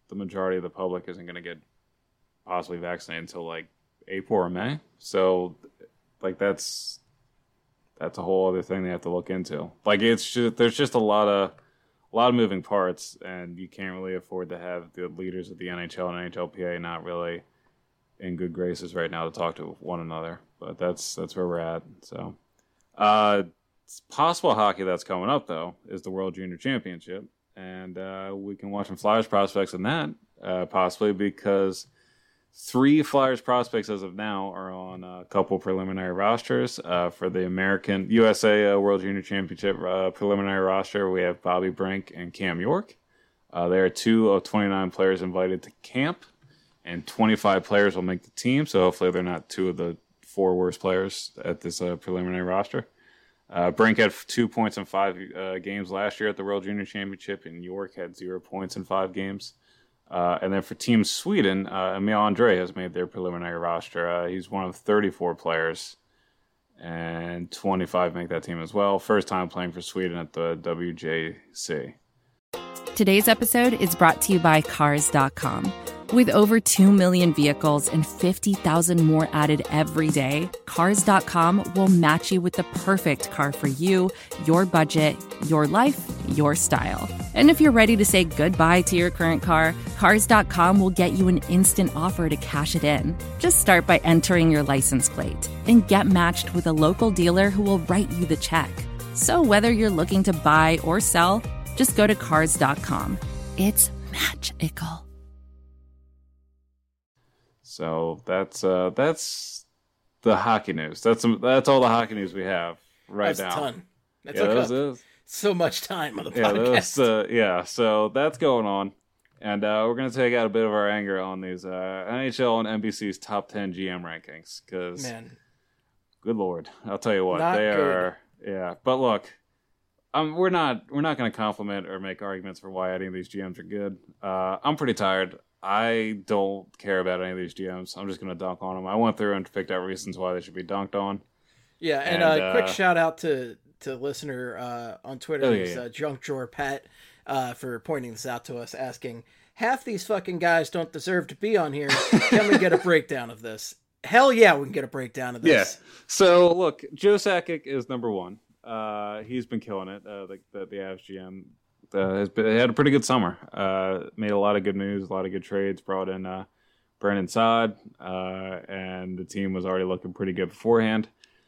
the majority of the public isn't going to get possibly vaccinated until like April or May. So, like that's that's a whole other thing they have to look into. Like it's just, there's just a lot of a lot of moving parts, and you can't really afford to have the leaders of the N H L and N H L P A not really in good graces right now to talk to one another. But that's that's where we're at. So, uh, it's possible hockey that's coming up though is the World Junior Championship, and uh, we can watch some Flyers prospects in that uh, possibly because three Flyers prospects as of now are on a couple preliminary rosters uh, for the American U S A uh, World Junior Championship uh, preliminary roster. We have Bobby Brink and Cam York. Uh, there are two of twenty-nine players invited to camp, and twenty-five players will make the team. So hopefully they're not two of the four worst players at this uh, preliminary roster. Uh, Brink had two points in five uh, games last year at the World Junior Championship, and York had zero points in five games. Uh, and then for Team Sweden, uh, Emil Andre has made their preliminary roster. Uh, he's one of thirty-four players, and twenty-five make that team as well. First time playing for Sweden at the W J C. Today's episode is brought to you by Cars dot com. With over two million vehicles and fifty thousand more added every day, Cars dot com will match you with the perfect car for you, your budget, your life, your style. And if you're ready to say goodbye to your current car, Cars dot com will get you an instant offer to cash it in. Just start by entering your license plate and get matched with a local dealer who will write you the check. So whether you're looking to buy or sell, just go to Cars dot com. It's magical. So that's uh, that's the hockey news. That's that's all the hockey news we have right that's now. That's a ton. That yeah, took that up was, so much time on the yeah, podcast. Was, uh, yeah, so that's going on. And uh, we're going to take out a bit of our anger on these uh, N H L and N B C's top ten G M rankings. Because, man, good Lord, I'll tell you what, not they good. are. Yeah, but look, um, we're not we're not going to compliment or make arguments for why any of these G Ms are good. Uh, I'm pretty tired. I don't care about any of these G Ms. I'm just going to dunk on them. I went through and picked out reasons why they should be dunked on. Yeah, and, and uh, uh, quick shout out to to listener uh, on Twitter, oh, yeah, who's yeah. uh, Junk Drawer Pat, uh, for pointing this out to us, asking, half these fucking guys don't deserve to be on here. Can we get a breakdown of this? Hell yeah, we can get a breakdown of this. Yeah. So, look, Joe Sakic is number one. Uh, he's been killing it, uh, the, the, the Avs G M. Uh, has been, had a pretty good summer. Uh, made a lot of good moves, a lot of good trades. Brought in uh, Brandon Saad, uh, and the team was already looking pretty good beforehand.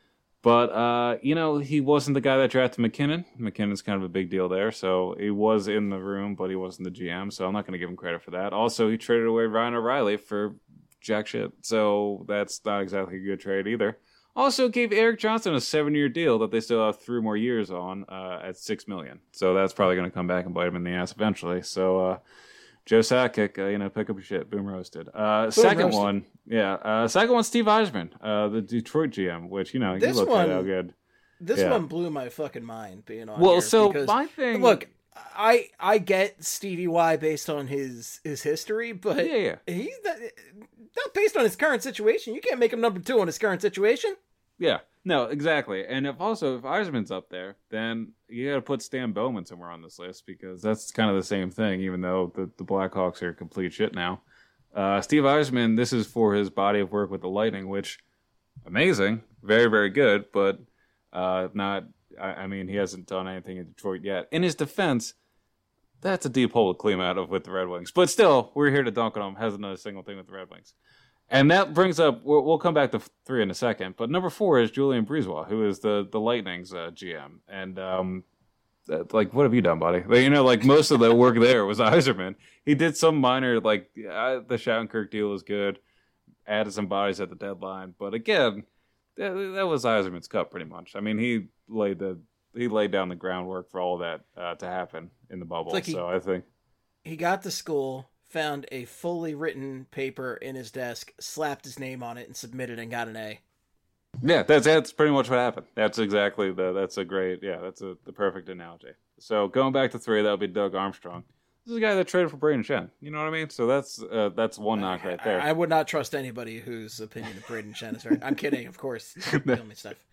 But uh, you know, he wasn't the guy that drafted McKinnon. McKinnon's kind of a big deal there, so he was in the room, but he wasn't the G M. So I'm not going to give him credit for that. Also, he traded away Ryan O'Reilly for jack shit, so that's not exactly a good trade either. Also gave Eric Johnson a seven-year deal that they still have three more years on uh, at six million dollars. So that's probably going to come back and bite him in the ass eventually. So uh, Joe Sakic, uh, you know, pick up your shit. Boom roasted. Uh, Boom second roasted. one, yeah. Uh, second one, Steve Eisman, uh, the Detroit G M, which, you know, This you look one- at how good. This Yeah. one blew my fucking mind being on Well, here so because, my thing... look, I I get Stevie Y based on his his history, but Yeah, yeah. he's not, not based on his current situation. You can't make him number two on his current situation. Yeah, no, exactly. And if also, if Eisman's up there, then you got to put Stan Bowman somewhere on this list because that's kind of the same thing, even though the, the Blackhawks are complete shit now. Uh, Steve Eisman, this is for his body of work with the Lightning, which, amazing, very, very good, but uh, not, I, I mean, he hasn't done anything in Detroit yet. In his defense, that's a deep hole to clean out of with the Red Wings. But still, we're here to dunk on him, hasn't done a single thing with the Red Wings. And that brings up, we'll, we'll come back to three in a second, but number four is Julian Breezewa, who is the, the Lightning's uh, G M. And, um, that, like, what have you done, buddy? Like, you know, like, most of the work there was Yzerman. He did some minor, like, uh, the Shattenkirk deal was good, added some bodies at the deadline. But again, that, that was Yzerman's cup, pretty much. I mean, he laid the he laid down the groundwork for all that uh, to happen in the bubble. Like he- so I think... He got to school, found a fully written paper in his desk, slapped his name on it, and submitted and got an A. Yeah, that's that's pretty much what happened. That's exactly the that's a great yeah, that's a the perfect analogy. So going back to three, that would be Doug Armstrong. This is a guy that traded for Braden Shen. You know what I mean? So that's uh, that's one knock right there. I, I would not trust anybody whose opinion of Braden Shen is right. I'm kidding, of course. Kill me stuff.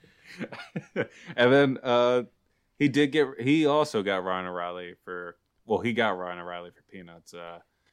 And then uh, he did get he also got Ryan O'Reilly for well he got Ryan O'Reilly for peanuts. Uh,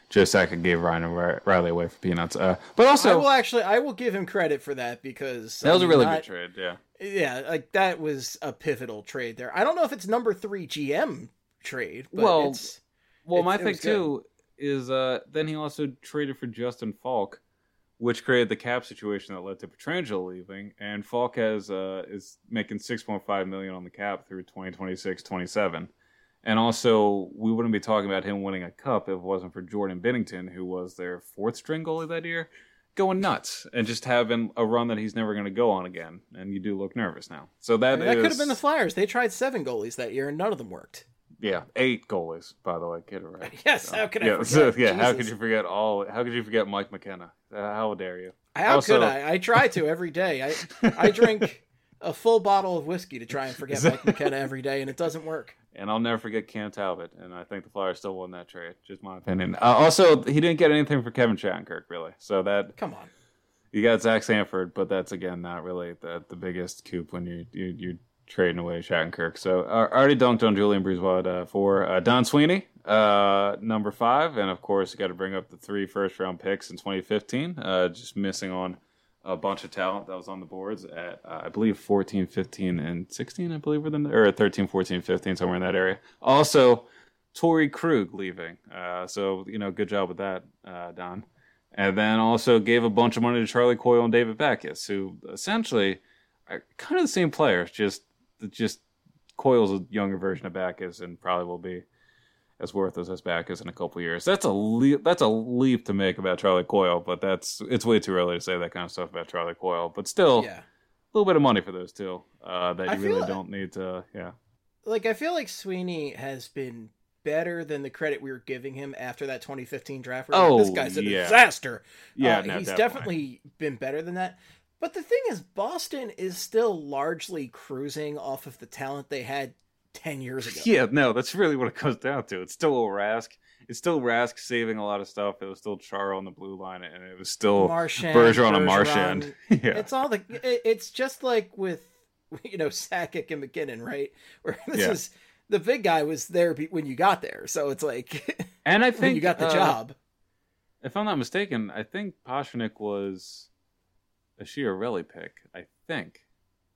Joe Sakic gave Ryan Riley away for peanuts. Uh, but also, I will actually, I will give him credit for that because that was I a mean, really not, good trade. Yeah, yeah, like that was a pivotal trade there. I don't know if it's number three G M trade. But well, it's, well, it's, my it thing too is uh, then he also traded for Justin Falk, which created the cap situation that led to Pietrangelo leaving, and Falk has uh, is making six point five million dollars on the cap through twenty twenty-six twenty-seven. And also, we wouldn't be talking about him winning a cup if it wasn't for Jordan Binnington, who was their fourth string goalie that year, going nuts and just having a run that he's never going to go on again. And you do look nervous now. So that I mean, that is, could have been the Flyers. They tried seven goalies that year, and none of them worked. Yeah, eight goalies, by the way. Get it right. Yes, so, how could I yeah, forget? So, yeah, Jesus. how could you forget all? How could you forget Mike McKenna? Uh, how dare you? How also, could I? I try to every day. I I drink a full bottle of whiskey to try and forget Mike McKenna every day, and it doesn't work. And I'll never forget Cam Talbot, and I think the Flyers still won that trade. Just my opinion. Uh, also, he didn't get anything for Kevin Shattenkirk, really. So that come on, you got Zach Sanford, but that's again not really the the biggest coup when you you you're trading away Shattenkirk. So uh, I already dunked on Julian Brisebois at uh, four. Uh, Don Sweeney, uh, number five, and of course you got to bring up the three first round picks in twenty fifteen. Uh, just missing on a bunch of talent that was on the boards at, uh, I believe, fourteen, fifteen, and sixteen, I believe, were the, or thirteen, fourteen, fifteen, somewhere in that area. Also, Torrey Krug leaving. Uh, so, you know, good job with that, uh, Don. And then also gave a bunch of money to Charlie Coyle and David Backes, who essentially are kind of the same players, just just Coyle's a younger version of Backes and probably will be as worthless as Backes in a couple years. That's a leap, that's a leap to make about Charlie Coyle, but that's it's way too early to say that kind of stuff about Charlie Coyle. But still, yeah. a little bit of money for those two uh, that I you really like, don't need to. Yeah, like I feel like Sweeney has been better than the credit we were giving him after that twenty fifteen draft. Oh, this guy's a yeah. disaster. Yeah, uh, no, he's definitely. definitely been better than that. But the thing is, Boston is still largely cruising off of the talent they had ten years ago. Yeah, no, that's really what it comes down to. It's still Rask. It's still Rask saving a lot of stuff. It was still Chara on the blue line, and it was still Marchand, Bergeron and Bergeron. Marchand. Yeah, It's all the. It's just like with, you know, Sakic and McKinnon, right? Where this Yeah. is the big guy was there when you got there, so it's like, and I think when you got the uh, job. If I'm not mistaken, I think Pasternak was a Chiarelli pick. I think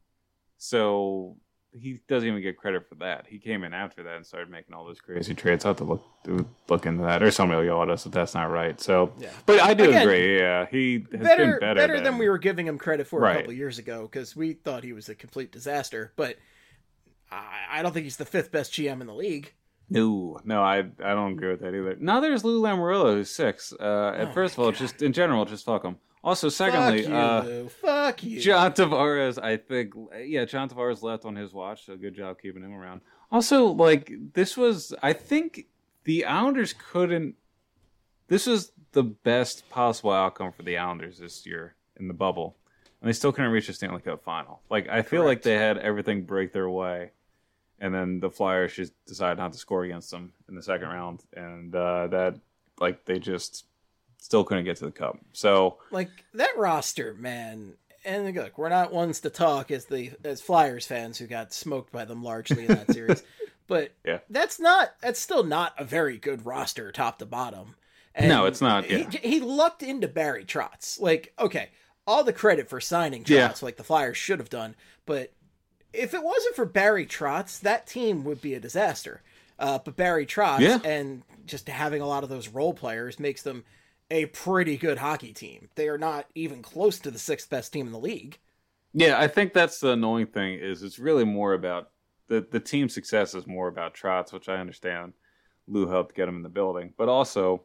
so. He doesn't even get credit for that. He came in after that and started making all those crazy trades. I'll have to look look into that, or somebody will yell at us if that's not right. So, Yeah. but I do Again, agree. Yeah, he has better, been better, better than, than we were giving him credit for Right. a couple of years ago because we thought he was a complete disaster. But I, I don't think he's the fifth best G M in the league. No, no, I I don't agree with that either. Now there's Lou Lamoriello, who's six. Uh, and Oh first of my all, God. just in general, just fuck him. Also, secondly, Fuck you, uh, Lou. Fuck you. John Tavares, I think, yeah, John Tavares left on his watch, so good job keeping him around. Also, like, this was, I think the Islanders couldn't, this was the best possible outcome for the Islanders this year in the bubble, and they still couldn't reach the Stanley Cup final. Like, I feel like Correct. they had everything break their way, and then the Flyers just decided not to score against them in the second round, and uh, that, like, they just still couldn't get to the cup. So, Like that roster, man. And look, we're not ones to talk as the as Flyers fans who got smoked by them largely in that series. But Yeah. that's not that's still not a very good roster top to bottom. And No, it's not, yeah. He, he lucked into Barry Trotz. Like, okay, all the credit for signing Trotz, Yeah. like the Flyers should have done. But if it wasn't for Barry Trotz, that team would be a disaster. Uh, but Barry Trotz Yeah. and just having a lot of those role players makes them a pretty good hockey team. They are not even close to the sixth best team in the league. yeah, I think that's the annoying thing is it's really more about the the team success is more about Trotz, which I understand. Lou helped get him in the building, but also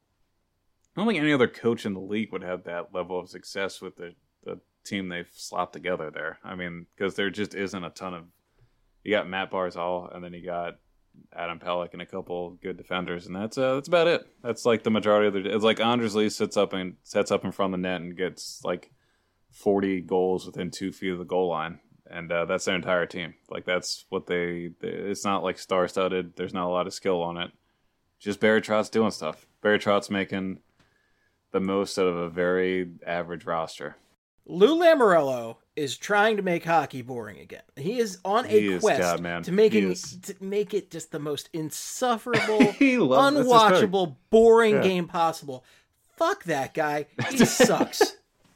I don't think any other coach in the league would have that level of success with the, the team they've slapped together there. I mean, because there just isn't a ton of. You got Matt Barzal, and then you got Adam Pelech and a couple good defenders, and that's uh, that's about it. That's like the majority of the. It's like Anders Lee sits up and sets up in front of the net and gets like forty goals within two feet of the goal line, and uh, that's their entire team. Like that's what they, they. It's not like star studded. There's not a lot of skill on it. Just Barry Trotz doing stuff. Barry Trotz making the most out of a very average roster. Lou Lamoriello is trying to make hockey boring again. He is on a He is, quest God, man. to making He is. to make it just the most insufferable, He loves- that's his thing. unwatchable, boring Yeah. game possible. Fuck that guy. He sucks.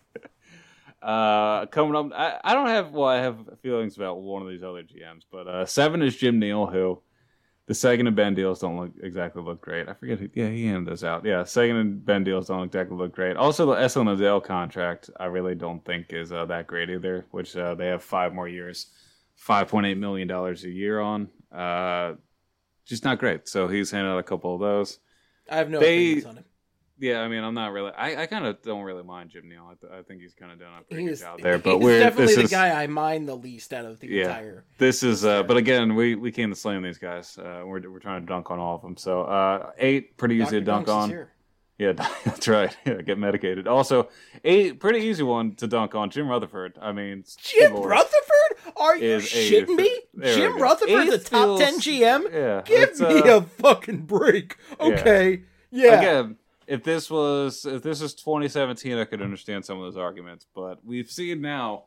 Uh, coming up, I, I don't have, well, I have feelings about one of these other G Ms, but uh, seven is Jim Neal, who the second and Ben deals don't look exactly look great. I forget who, yeah, he handed those out. Yeah, second and Ben deals don't exactly look great. Also, the Esel Nadal contract, I really don't think is uh, that great either, which uh, they have five more years, five point eight million dollars a year on. Uh, just not great. So he's handed out a couple of those. I have no They- opinions on him. Yeah, I mean, I'm not really. I, I kind of don't really mind Jim Neal. I, th- I think he's kind of done a pretty He good is, job there. But he's we're definitely this the is, guy I mind the least out of the Yeah. entire. This is, uh, but again, we, we came to slam these guys. Uh, we're we're trying to dunk on all of them. So uh, eight, pretty easy Doctor to dunk Dunks is on. here. Yeah, that's right. Yeah, get medicated. Also, eight, pretty easy one to dunk on. Jim Rutherford. I mean, Jim Lord, Rutherford? Are you is a- shitting me? there we Jim go. Rutherford, the Eight top feels- ten G M? Yeah, Give it's, me uh, a fucking break. Okay. Yeah. Again, if this was if this was twenty seventeen, I could understand some of those arguments. But we've seen now,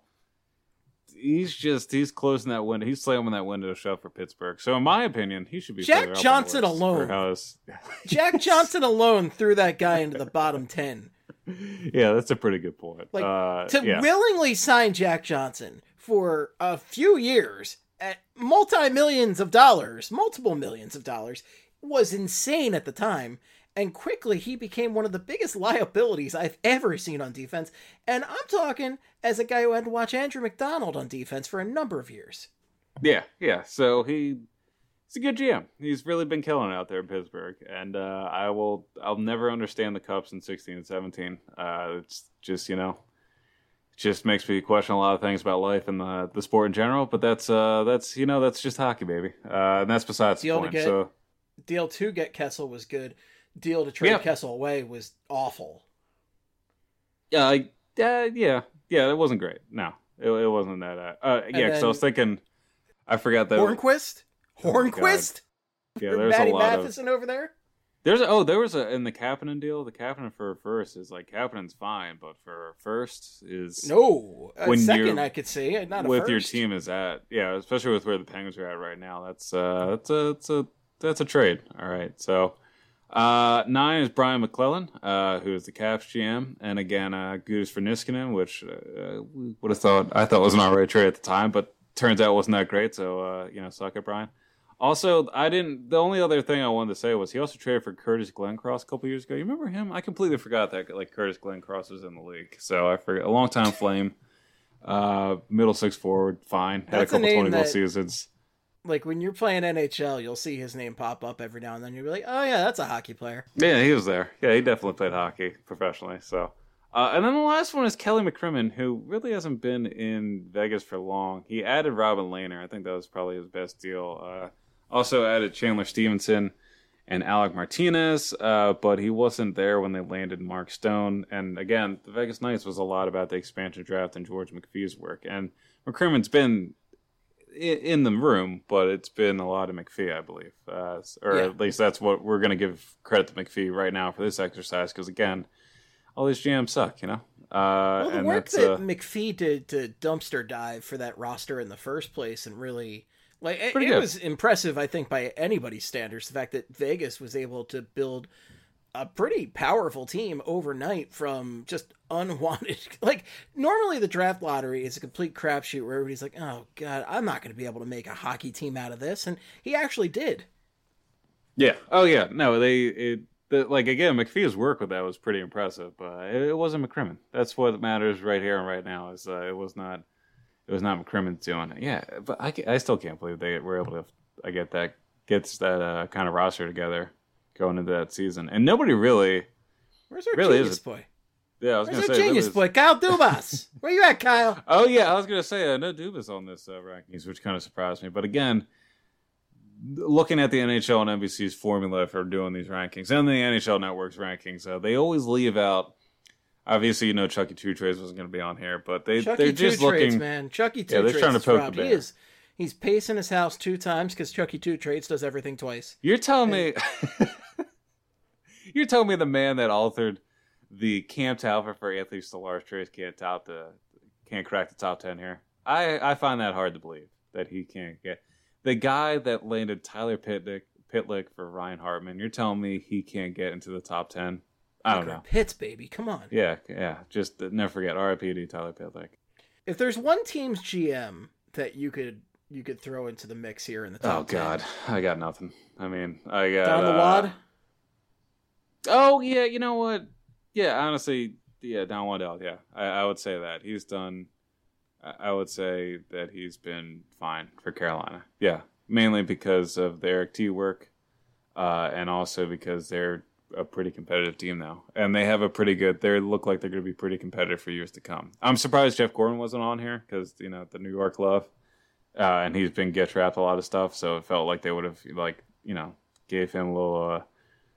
he's just he's closing that window. He's slamming that window shut for Pittsburgh. So in my opinion, he should be Jack further up on the Johnson list alone. for how his- Jack Johnson alone threw that guy into the bottom ten. Yeah, that's a pretty good point. Like, uh, to yeah. willingly sign Jack Johnson for a few years at multi-millions of dollars, multiple millions of dollars, was insane at the time. And quickly, he became one of the biggest liabilities I've ever seen on defense. And I'm talking as a guy who had to watch Andrew McDonald on defense for a number of years. Yeah, yeah. So he he's a good G M. He's really been killing it out there in Pittsburgh, and uh, I will I'll never understand the Cups in sixteen and seventeen. Uh, it's just you know, it just makes me question a lot of things about life and the the sport in general. But that's uh that's you know that's just hockey, baby, uh, and that's besides Deal the to point. get- So Deal to get Kessel was good. Deal to trade Yeah. Kessel away was awful. yeah, I, uh, yeah, yeah, it wasn't great. No, it, it wasn't that. Uh, uh yeah, because I was thinking, I forgot that. Hornquist? Oh my Hornquist? Yeah, there's Matty a lot of. Matheson over there? There's a, oh there was a in the Kapanen deal. The Kapanen for first is like Kapanen's fine, but for first is No. A When second, you're- I could see. Not a with first. your team is at. Yeah, especially with where the Penguins are at right now. That's uh that's a that's a that's a trade. All right, so uh nine is Brian McClellan, uh who is the Caps G M, and again uh Gudas for Niskanen, which uh, we would have thought I thought was an alright trade at the time, but turns out it wasn't that great. So uh you know, suck it, Brian. Also, I didn't. The only other thing I wanted to say was he also traded for Curtis Glencross a couple years ago. You remember him? I completely forgot that like Curtis Glencross was in the league. So I forgot. A long time Flame, uh, middle six forward, fine. Had That's a a couple name twenty goal that- seasons. Like, when you're playing N H L, you'll see his name pop up every now and then. You'll be like, oh, yeah, that's a hockey player. Yeah, he was there. Yeah, he definitely played hockey professionally. So, uh, and then the last one is Kelly McCrimmon, who really hasn't been in Vegas for long. He added Robin Lehner. I think that was probably his best deal. Uh, also added Chandler Stevenson and Alec Martinez, uh, but he wasn't there when they landed Mark Stone. And again, the Vegas Knights was a lot about the expansion draft and George McPhee's work. And McCrimmon's been in the room, but it's been a lot of McPhee, I believe, uh, or Yeah. at least that's what we're going to give credit to McPhee right now for this exercise. Because again, all these G Ms suck, you know. Uh, Well, the and work that's, that uh, McPhee did to dumpster dive for that roster in the first place, and really, like, it, Pretty it good. was impressive, I think, by anybody's standards. The fact that Vegas was able to build a pretty powerful team overnight from just unwanted. Like, normally the draft lottery is a complete crapshoot where everybody's like, oh, God, I'm not going to be able to make a hockey team out of this. And he actually did. yeah. Oh yeah. No, they it the, like again McPhee's work with that was pretty impressive, but it, it wasn't McCrimmon. That's what matters right here and right now. Is uh, it was not it was not McCrimmon doing it. Yeah, but I, I still can't believe they were able to. I get that gets that uh, kind of roster together going into that season, and nobody really. Where's our Really genius is. boy? Yeah, I was Where's gonna our say genius really is- boy? Kyle Dubas. Where you at, Kyle? Oh yeah, I was gonna say uh, no Dubas on this uh, rankings, which kind of surprised me. But again, looking at the N H L and N B C's formula for doing these rankings and the N H L Network's rankings, uh, they always leave out. Obviously, you know Chucky Two Trades wasn't going to be on here, but they Chucky they're two just trades, looking. man. Chucky two Yeah, they're trades. trying to is poke the robbed. He bear. is. He's pacing his house two times because Chucky two trades does everything twice. You're telling me. You're telling me the man that authored the Cam Talbot for Anthony Stolarz trades can't top the can't crack the top ten here. I, I find that hard to believe that he can't get the guy that landed Tyler Pitlick, Pitlick for Ryan Hartman. You're telling me he can't get into the top ten? I don't know. Pitts, baby, come on. Yeah, yeah. Just never forget R I P to Tyler Pitlick. If there's one team's G M that you could you could throw into the mix here in the top Oh God, ten. I got nothing. I mean, I got Don the uh, Wad. Oh yeah, you know what? Yeah, honestly, yeah, Don Waddell. Yeah, I, I would say that he's done. I would say that he's been fine for Carolina. Yeah, mainly because of their T work, uh, and also because they're a pretty competitive team now, and they have a pretty good. They look like they're going to be pretty competitive for years to come. I'm surprised Jeff Gordon wasn't on here because you know the New York love, uh, and he's been get trapped a lot of stuff. So it felt like they would have like you know gave him a little. Uh,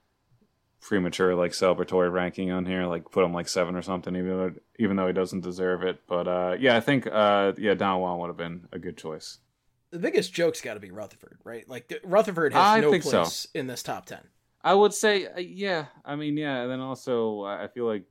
premature like celebratory ranking on here, like put him like seven or something, even though even though he doesn't deserve it. But uh, yeah, I think uh, yeah, Don Juan would have been a good choice. The biggest joke's got to be Rutherford, right? Like Rutherford has I no think place so. in this top ten. I would say uh, yeah. I mean yeah, and then also I feel like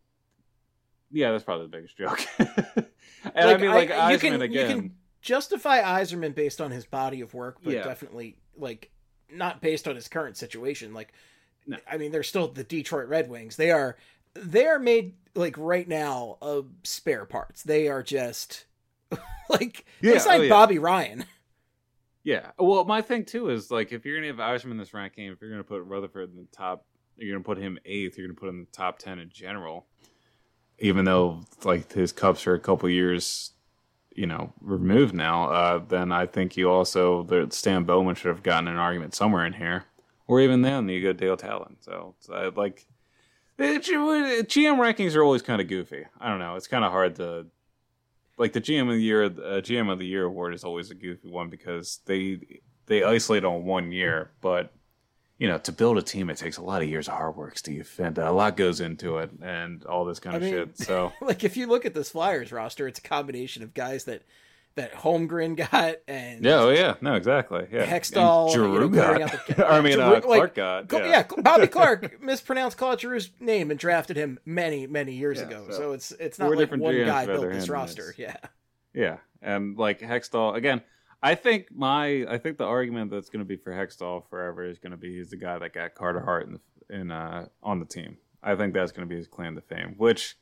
yeah, that's probably the biggest joke. and like, I mean like I, you Eisman can, again. You can justify Iserman based on his body of work, but Yeah. definitely like not based on his current situation. Like. No. I mean, they're still the Detroit Red Wings. They are, they are made like right now of spare parts. They are just like Yeah, they signed oh, yeah. Bobby Ryan. Yeah. Well, my thing too is like if you're gonna have Eisman in this ranking, if you're gonna put Rutherford in the top, you're gonna put him eighth. You're gonna put him in the top ten in general. Even though like his cups are a couple years, you know, removed now, uh, then I think you also that Stan Bowman should have gotten an argument somewhere in here. Or even then, you go Dale Talon. So, so I, like, the G M rankings are always kind of goofy. I don't know. It's kind of hard to, like, the G M of the year, uh, G M of the year award is always a goofy one because they they isolate on one year. But you know, to build a team, it takes a lot of years of hard work, Steve, and a lot goes into it, and all this kind of I mean, shit. So, like, if you look at this Flyers roster, it's a combination of guys that. That Holmgren got and yeah, oh yeah, no, exactly, yeah. Hextall, Giroux you know, got. The, I mean, Giroux, uh, Clark like, got. Yeah. yeah, Bobby Clark mispronounced Claude Giroux's name and drafted him many, many years yeah, ago. So, So it's it's not like one G Ms guy built this roster. It's, yeah, yeah, and like Hextall again. I think my I think the argument that's going to be for Hextall forever is going to be he's the guy that got Carter Hart in the, in uh, on the team. I think that's going to be his claim to fame. Which,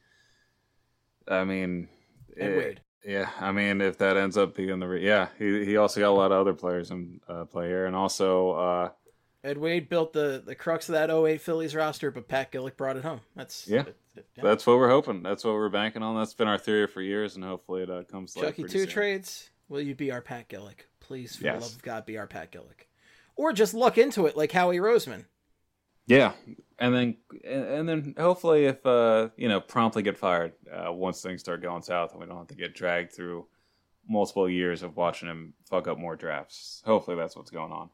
I mean, and it, Wade. Yeah, I mean, if that ends up being the re- yeah, he he also got a lot of other players in uh, play here, and also uh, Ed Wade built the the crux of that oh eight Phillies roster, but Pat Gillick brought it home. That's yeah, it, it, yeah. that's what we're hoping. That's what we're banking on. That's been our theory for years, and hopefully it uh, comes to life Chucky pretty two soon. trades. Will you be our Pat Gillick? Please, for Yes. the love of God, be our Pat Gillick, or just luck into it like Howie Roseman. Yeah, and then and then hopefully if uh you know promptly get fired uh, once things start going south and we don't have to get dragged through multiple years of watching him fuck up more drafts. Hopefully that's what's going on.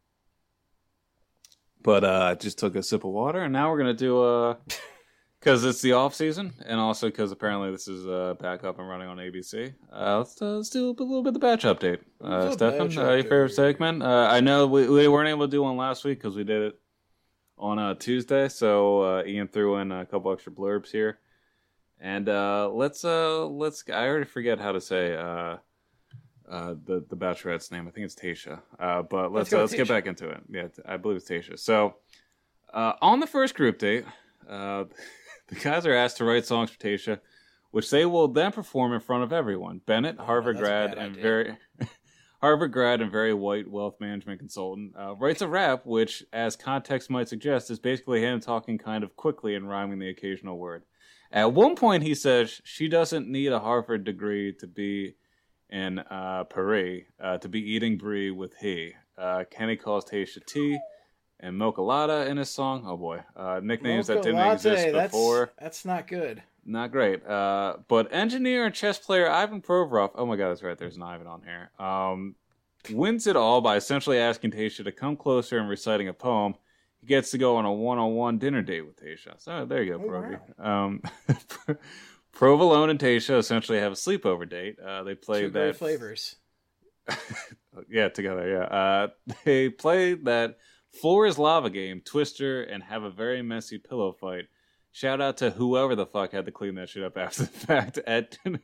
But uh, I just took a sip of water and now we're gonna do uh because it's the off season and also because apparently this is uh back up and running on A B C. Uh, let's, uh, let's do a little bit of the batch update. Uh, Stefan, uh, your favorite segment? Uh, I know we we weren't able to do one last week because we did it on uh, Tuesday, so uh, Ian threw in a couple extra blurbs here, and uh, let's uh, let's. I already forget how to say uh, uh, the the Bachelorette's name. I think it's Tasha, uh, but let's let's, uh, let's get back into it. Yeah, I believe it's Tasha. So uh, on the first group date, uh, the guys are asked to write songs for Tasha, which they will then perform in front of everyone. Bennett, oh, Harvard grad, and idea. very. Harvard grad and very white wealth management consultant, uh, writes a rap which, as context might suggest, is basically him talking kind of quickly and rhyming the occasional word. At one point, he says she doesn't need a Harvard degree to be in uh, Paris, uh, to be eating brie with he. Uh, Kenny calls Tasha T and Mocha Latte in his song. Oh boy, uh, nicknames Mocha that didn't Latte, exist that's, before. That's not good. Not great. Uh, but engineer and chess player Ivan Provorov, oh my god, that's right, there's an Ivan on here, um, wins it all by essentially asking Tasha to come closer and reciting a poem. He gets to go on a one-on-one dinner date with Tasha. So there you go, Oh, Provi. wow. Um, Provolone and Tasha essentially have a sleepover date. Uh, they play Two great that... flavors. yeah, together, yeah. Uh, they play that Floor is Lava game, Twister, and have a very messy pillow fight. Shout out to whoever the fuck had to clean that shit up after the fact. At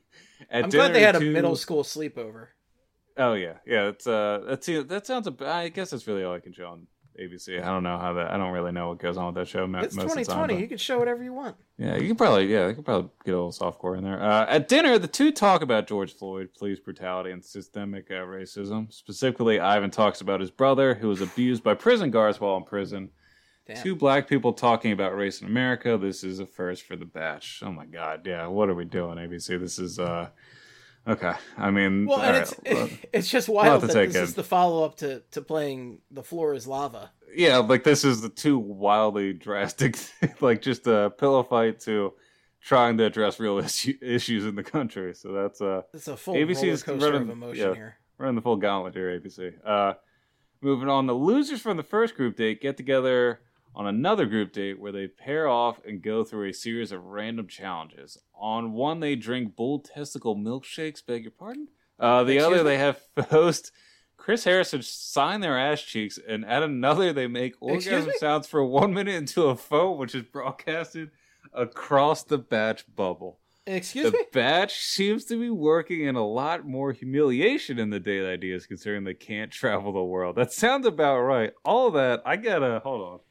At I'm dinner, glad they had a two... middle school sleepover. Oh yeah, yeah. It's uh, that's that sounds. A, I guess that's really all I can show on A B C. I don't know how that. I don't really know what goes on with that show. It's most twenty twenty. Of the time, but... You can show whatever you want. Yeah, you can probably. Yeah, you can probably get a little softcore in there. Uh, at dinner, the two talk about George Floyd, police brutality, and systemic uh, racism. Specifically, Ivan talks about his brother who was abused by prison guards while in prison. Damn. Two black people talking about race in America. This is a first for the batch. Oh my god, yeah. What are we doing, A B C? This is uh. Okay, I mean, well, and it's right. it's just wild that this in. is the follow up to, to playing The Floor Is Lava. Yeah, like this is the two wildly drastic, like just a pillow fight to trying to address real issue, issues in the country. So that's uh, it's a full A B C's roller coaster running, of emotion yeah, here. Running the full gauntlet here, A B C. Uh, moving on, the losers from the first group date get together on another group date where they pair off and go through a series of random challenges. On one, they drink bull testicle milkshakes, beg your pardon? Uh, the Excuse other, me? They have host Chris Harrison sign their ass cheeks, and at another, they make orgasm sounds for one minute into a phone, which is broadcasted across the batch bubble. Excuse the me? The batch seems to be working in a lot more humiliation in the date ideas, considering they can't travel the world. That sounds about right. All of that, I gotta, hold on.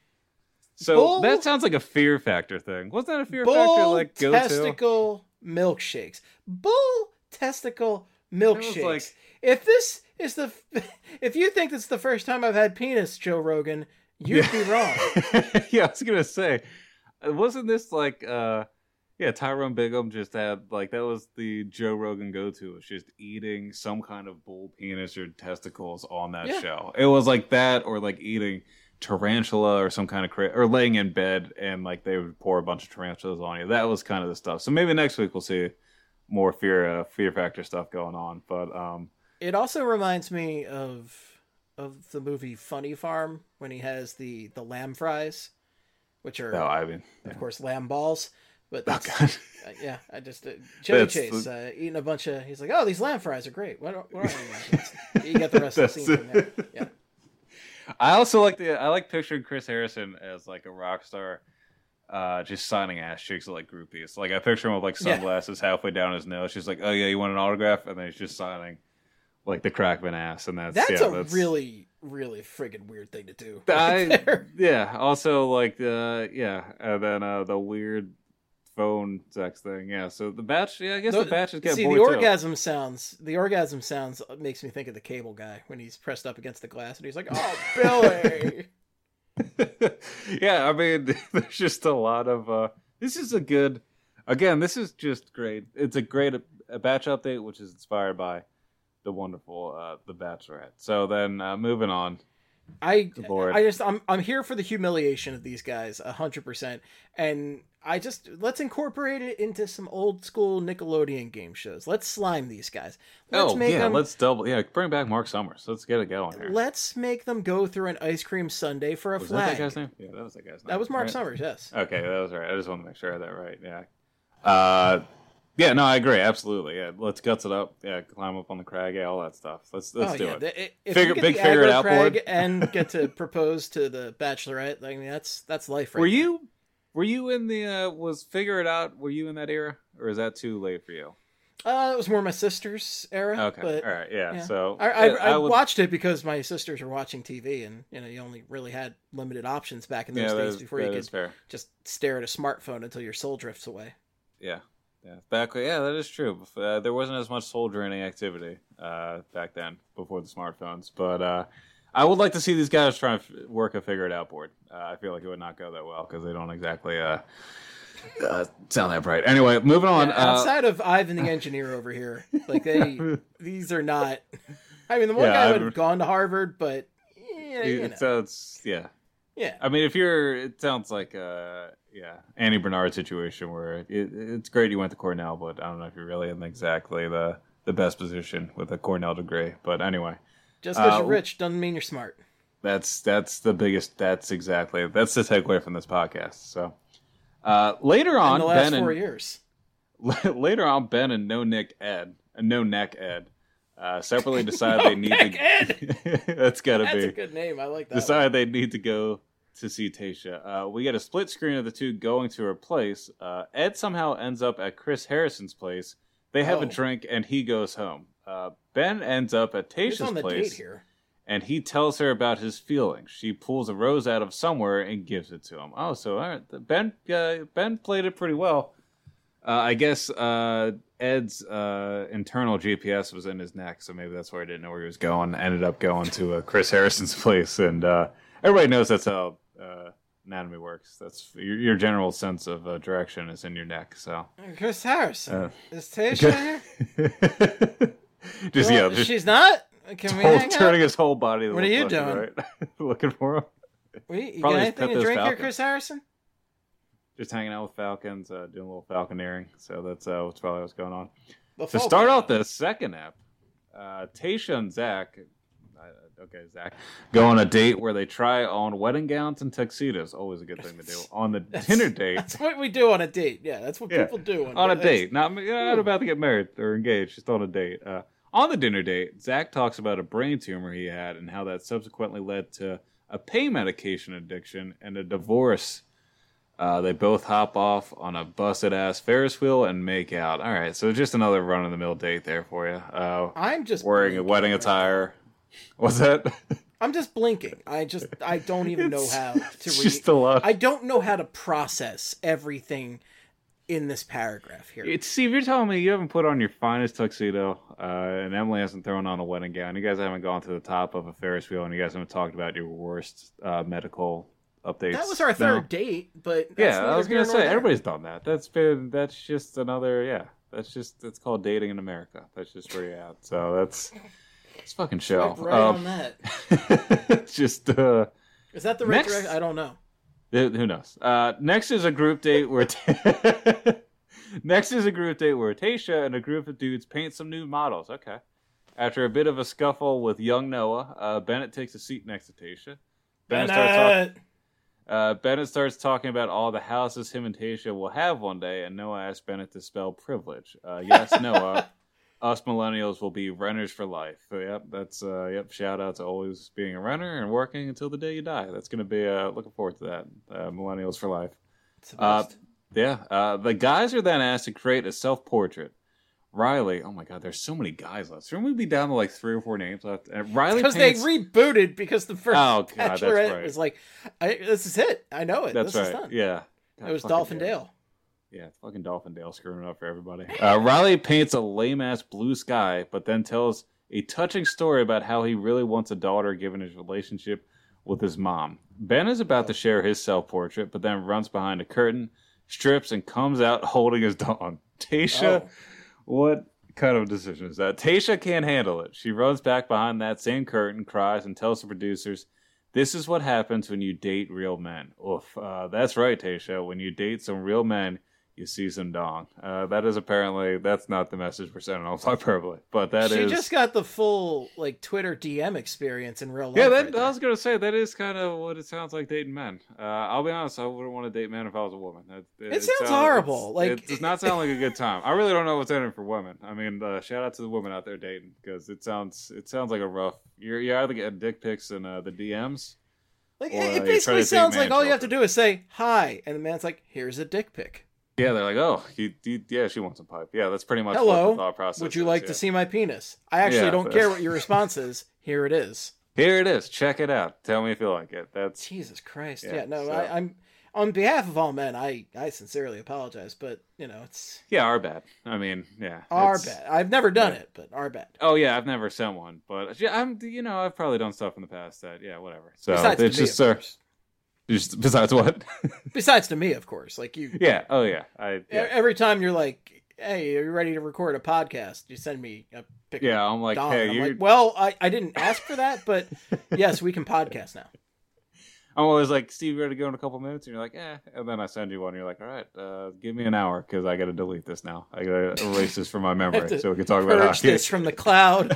So bull, that sounds like a Fear Factor thing. Wasn't that a Fear Factor like go testicle milkshakes? Bull testicle milkshakes. Like... If this is the, if you think this is the first time I've had penis, Joe Rogan, you'd yeah. be wrong. Yeah, I was gonna say, wasn't this like, uh, yeah, Tyrone Bigham just had like that was the Joe Rogan go-to. It's just eating some kind of bull penis or testicles on that yeah. show. It was like that, or like eating tarantula or some kind of cra- or laying in bed and like they would pour a bunch of tarantulas on you. That was kind of the stuff. So maybe next week we'll see more fear uh, fear factor stuff going on. But um it also reminds me of of the movie Funny Farm when he has the the lamb fries, which are oh, I mean, yeah. of course lamb balls. But that's, oh, uh, yeah, I just uh, Chevy that's Chase the... uh, eating a bunch of. He's like, oh, these lamb fries are great. What, what are you? You get the rest of the scene from there. Yeah. I also like the I like picturing Chris Harrison as like a rock star, uh, just signing ass cheeks like groupies. Like I picture him with like sunglasses yeah. halfway down his nose. She's like, "Oh yeah, you want an autograph?" And then he's just signing like the Crackman ass, and that's that's yeah, a that's... really really friggin' weird thing to do. Right I there. yeah. Also like uh yeah, and then uh, the weird phone sex thing. Yeah. So the batch. Yeah, I guess the, the batch is getting see bored the too. orgasm sounds. The orgasm sounds makes me think of the Cable Guy when he's pressed up against the glass and he's like, "Oh, Billy." Yeah, I mean, there's just a lot of. Uh, this is a good. Again, this is just great. It's a great a batch update, which is inspired by the wonderful uh, The Bachelorette. So then, uh, moving on. I I just I'm I'm here for the humiliation of these guys a hundred percent, and I just let's incorporate it into some old school Nickelodeon game shows. Let's slime these guys. Let's oh make yeah, them, let's double yeah bring back Mark Summers. Let's get it going here. Let's make them go through an ice cream sundae for a was flag. That, that guy's name? Yeah, that was that guy's name. That was Mark right? Summers. Yes. Okay, that was right. I just want to make sure I had that right. Yeah. Uh. Yeah, no, I agree. Absolutely. Yeah, let's guts it up. Yeah, climb up on the crag. Yeah, all that stuff. Let's let's oh, do yeah. it. The, if figure, you get big the figure it out crag board and get to propose to the Bachelorette. I mean, that's that's life. Right were now. you were you in the uh, was figure it out? Were you in that era, or is that too late for you? Uh, it was more my sister's era. Okay, but, all right, yeah. yeah. So I I, yeah, I, I would... watched it because my sisters were watching T V, and you know you only really had limited options back in those yeah, days is, before you could fair. just stare at a smartphone until your soul drifts away. Yeah. Yeah, back yeah, that is true. Uh, there wasn't as much soul draining activity uh, back then before the smartphones. But uh, I would like to see these guys try and f- work a figure it out board. Uh, I feel like it would not go that well because they don't exactly uh, uh, sound that bright. Anyway, moving on. Yeah, outside uh, of Ivan the engineer over here, like they, these are not. I mean, the one yeah, guy would have gone to Harvard, but yeah, you know. It sounds yeah. Yeah. I mean, if you're, it sounds like uh yeah, Annie Bernard situation where it, it's great you went to Cornell, but I don't know if you're really in exactly the, the best position with a Cornell degree. But anyway, just because uh, you're rich doesn't mean you're smart. That's that's the biggest. That's exactly that's the takeaway from this podcast. So uh, later on, in the last Ben four and, years. Later on, Ben and No Nick Ed, uh, No Neck Ed, uh, separately decided no they need neck to. Ed. That's gotta that's be. That's a good name. I like that. Decided one. they need to go to see Tayshia. Uh, we get a split screen of the two going to her place. Uh, Ed somehow ends up at Chris Harrison's place, They have Oh. a drink, and he goes home. Uh, Ben ends up at Who's Tayshia's on the place, date here? and he tells her about his feelings. She pulls a rose out of somewhere and gives it to him. Oh, so all right. Ben uh, Ben played it pretty well. Uh, I guess uh, Ed's uh, internal G P S was in his neck, so maybe that's why he didn't know where he was going. Ended up going to uh, Chris Harrison's place, and uh, everybody knows that's how uh, anatomy works. That's your, your general sense of uh, direction is in your neck. So Chris Harrison. Uh, Is Tasha here? just Well, yeah, just she's not? Can we whole- hang turning out? his whole body. to What the are you left and doing? Right. Looking for him. What, you got Probably just anything pet to those drink here, falcons. Chris Harrison? Just hanging out with falcons, uh, doing a little falconeering. So that's uh, what's probably what's going on. The To folk- start out the second app, uh, Tayshia and Zach, uh, okay, Zach, go on a date where they try on wedding gowns and tuxedos. Always a good thing to do. On the dinner date, That's what we do on a date. Yeah, that's what Yeah. people do. On, on a it's- date, not, not about to get married or engaged, just on a date. Uh, on the dinner date, Zach talks about a brain tumor he had and how that subsequently led to a pain medication addiction and a divorce. Uh, they both hop off on a busted-ass Ferris wheel and make out. All right, so just another run-of-the-mill date there for you. Uh, I'm just wearing a blinking wedding right attire. What's that? now. I'm just blinking. I just I don't even know It's- how to it's read. just a lot. I don't know how to process everything in this paragraph here. It's, see, if you're telling me you haven't put on your finest tuxedo, uh, and Emily hasn't thrown on a wedding gown, you guys haven't gone to the top of a Ferris wheel, and you guys haven't talked about your worst uh, medical updates. That was our No. third date, but that's Yeah, I neither was here gonna nor say there. everybody's done that. That's been that's just another yeah. That's just that's called dating in America. That's just where you're at. So that's it's fucking show. Swipe right Um, on that. just uh, Is that the right next- direction? I don't know. who who knows? Uh, next is a group date where. Next is a group date where Tayshia and a group of dudes paint some new models. Okay. After a bit of a scuffle with young Noah, uh, Bennett takes a seat next to Tayshia. Bennett starts, talk- Bennett! uh, Bennett starts talking about all the houses him and Tayshia will have one day, and Noah asks Bennett to spell privilege. Uh, yes, Noah, us millennials will be renters for life. So, yep, that's uh, yep. Shout out to always being a renter and working until the day you die. That's gonna be uh, looking forward to that. Uh, millennials for life. It's the Uh, best. Yeah, uh, the guys are then asked to create a self-portrait. Riley, oh my God, there's so many guys left. Shouldn't we be down to like three or four names left? And Riley Because paints... they rebooted because the first Oh, God, that's Bachelorette right. was like, I, this is it. I know it. That's this right. is done. Yeah, God, It was fucking Dolphin damn. Dale. Yeah, fucking Dolphin Dale screwing it up for everybody. Uh, Riley paints a lame-ass blue sky, but then tells a touching story about how he really wants a daughter given his relationship with his mom. Ben is about to share his self-portrait, but then runs behind a curtain, strips, and comes out holding his dog. Tayshia, Oh. what kind of decision is that? Tayshia can't handle it. She runs back behind that same curtain, cries, and tells the producers, "This is what happens when you date real men." Oof. Uh, that's right, Tayshia. When you date some real men, you see some dong. Uh, that is apparently, that's not the message we're sending on Hyperbole, but that she is... just got the full like Twitter D M experience in real life. Yeah, that, right I there. was gonna say that is kind of what it sounds like dating men. Uh, I'll be honest, I wouldn't want to date men if I was a woman. It, It sounds horrible, it's- like- it does not sound like a good time. I really don't know what's in it for women. I mean, uh, shout out to the women out there dating because it sounds it sounds like a rough. You're you either getting dick pics in uh, the D Ms. Like Or, uh, you it try to basically date sounds man like all you have to children. do is say hi, and the man's like, "Here's a dick pic. Yeah, they're like, oh, you, you, yeah, she wants a pipe. Yeah, that's pretty much what Hello, the thought process would you is, like yeah. to see my penis? I actually Yeah, don't but- care what your response is. Here it is." Here it is. Check it out. Tell me if you like it. That's Jesus Christ! Yeah, Yeah, no, so- I, I'm on behalf of all men. I I sincerely apologize, but you know it's yeah, our bad. I mean, yeah, our it's- bad. I've never done yeah. it, but our bad. Oh yeah, I've never sent one, but yeah, I'm. You know, I've probably done stuff in the past that, yeah, whatever. So Besides it's to me, just, of uh, course. just besides what? Besides to me, of course. Like you, yeah. Oh yeah. I. e- Yeah. every time you're like, "Hey, are you ready to record a podcast?" You send me a picture. Yeah, I'm like, Dong. hey, I'm you. like, well, I, I didn't ask for that, but yes, we can podcast now. I'm always like, Steve, you ready to go in a couple minutes? And you're like, eh. And then I send you one. And you're like, all right, uh, give me an hour because I got to delete this now. I got to erase this from my I have memory to so we can talk about Purge hockey. this from the cloud.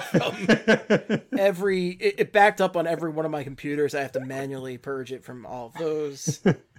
From every it, it backed up on every one of my computers. I have to manually purge it from all of those.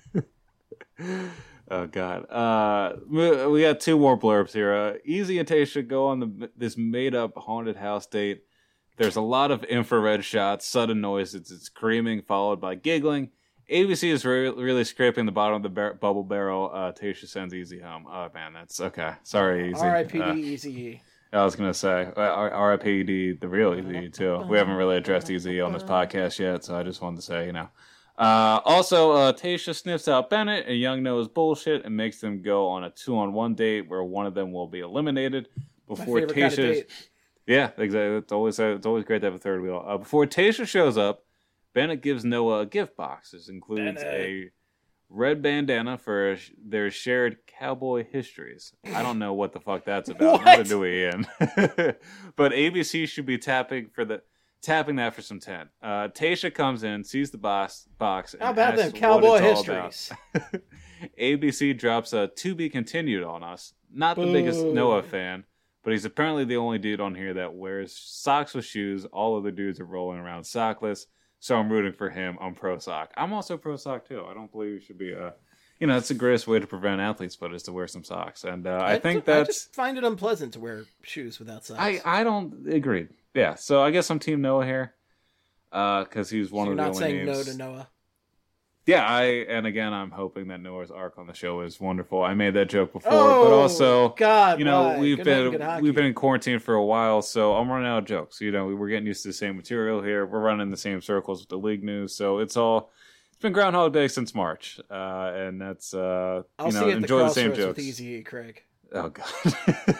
Oh God! Uh, we we got two more blurbs here. Uh, Easy and Tayshia go on the this made-up haunted house date. There's a lot of infrared shots, sudden noises, it's screaming followed by giggling, A B C is re- really scraping the bottom of the bar- bubble barrel. Uh, Tasha sends Easy home. Oh man, that's okay. Sorry, Easy. R I P D uh, Easy. I was gonna say uh, R I P D the real Easy too. We haven't really addressed Easy on this podcast yet, so I just wanted to say, you know. Uh, also, uh, Tasha sniffs out Bennett and Young Noah's bullshit and makes them go on a two-on-one date where one of them will be eliminated before My favorite Tasha. kind of date. Yeah, exactly. It's always it's always great to have a third wheel. Uh, before Tasha shows up, Bennett gives Noah a gift box. This includes Bennett. a red bandana for their shared cowboy histories. I don't know what the fuck that's about. Neither do we, Ian. But A B C should be tapping for the tapping that for some tent. Uh, Tasha comes in, sees the box, box. How and about asks them what cowboy it's all histories? about. A B C drops a to be continued on us. Not the Boo. biggest Noah fan, but he's apparently the only dude on here that wears socks with shoes. All other dudes are rolling around sockless. So I'm rooting for him. I'm pro sock. I'm also pro sock too. I don't believe you should be a, you know, it's the greatest way to prevent athlete split is to wear some socks. And uh, I, I think I that's. just find it unpleasant to wear shoes without socks. I I don't agree. Yeah. So I guess I'm team Noah here, because uh, he's one so of you're the not only saying names. no to Noah. Yeah, I and again I'm hoping that Noah's arc on the show is wonderful. I made that joke before, Oh, but also God, you know, why? we've Good been night, good hockey. we've been in quarantine for a while, so I'm running out of jokes. You know, we're getting used to the same material here. We're running the same circles with the league news, so it's all it's been Groundhog Day since March, uh, and that's uh, I'll you know see you at enjoy the the same crossroads jokes. with Easy, Craig. Oh God.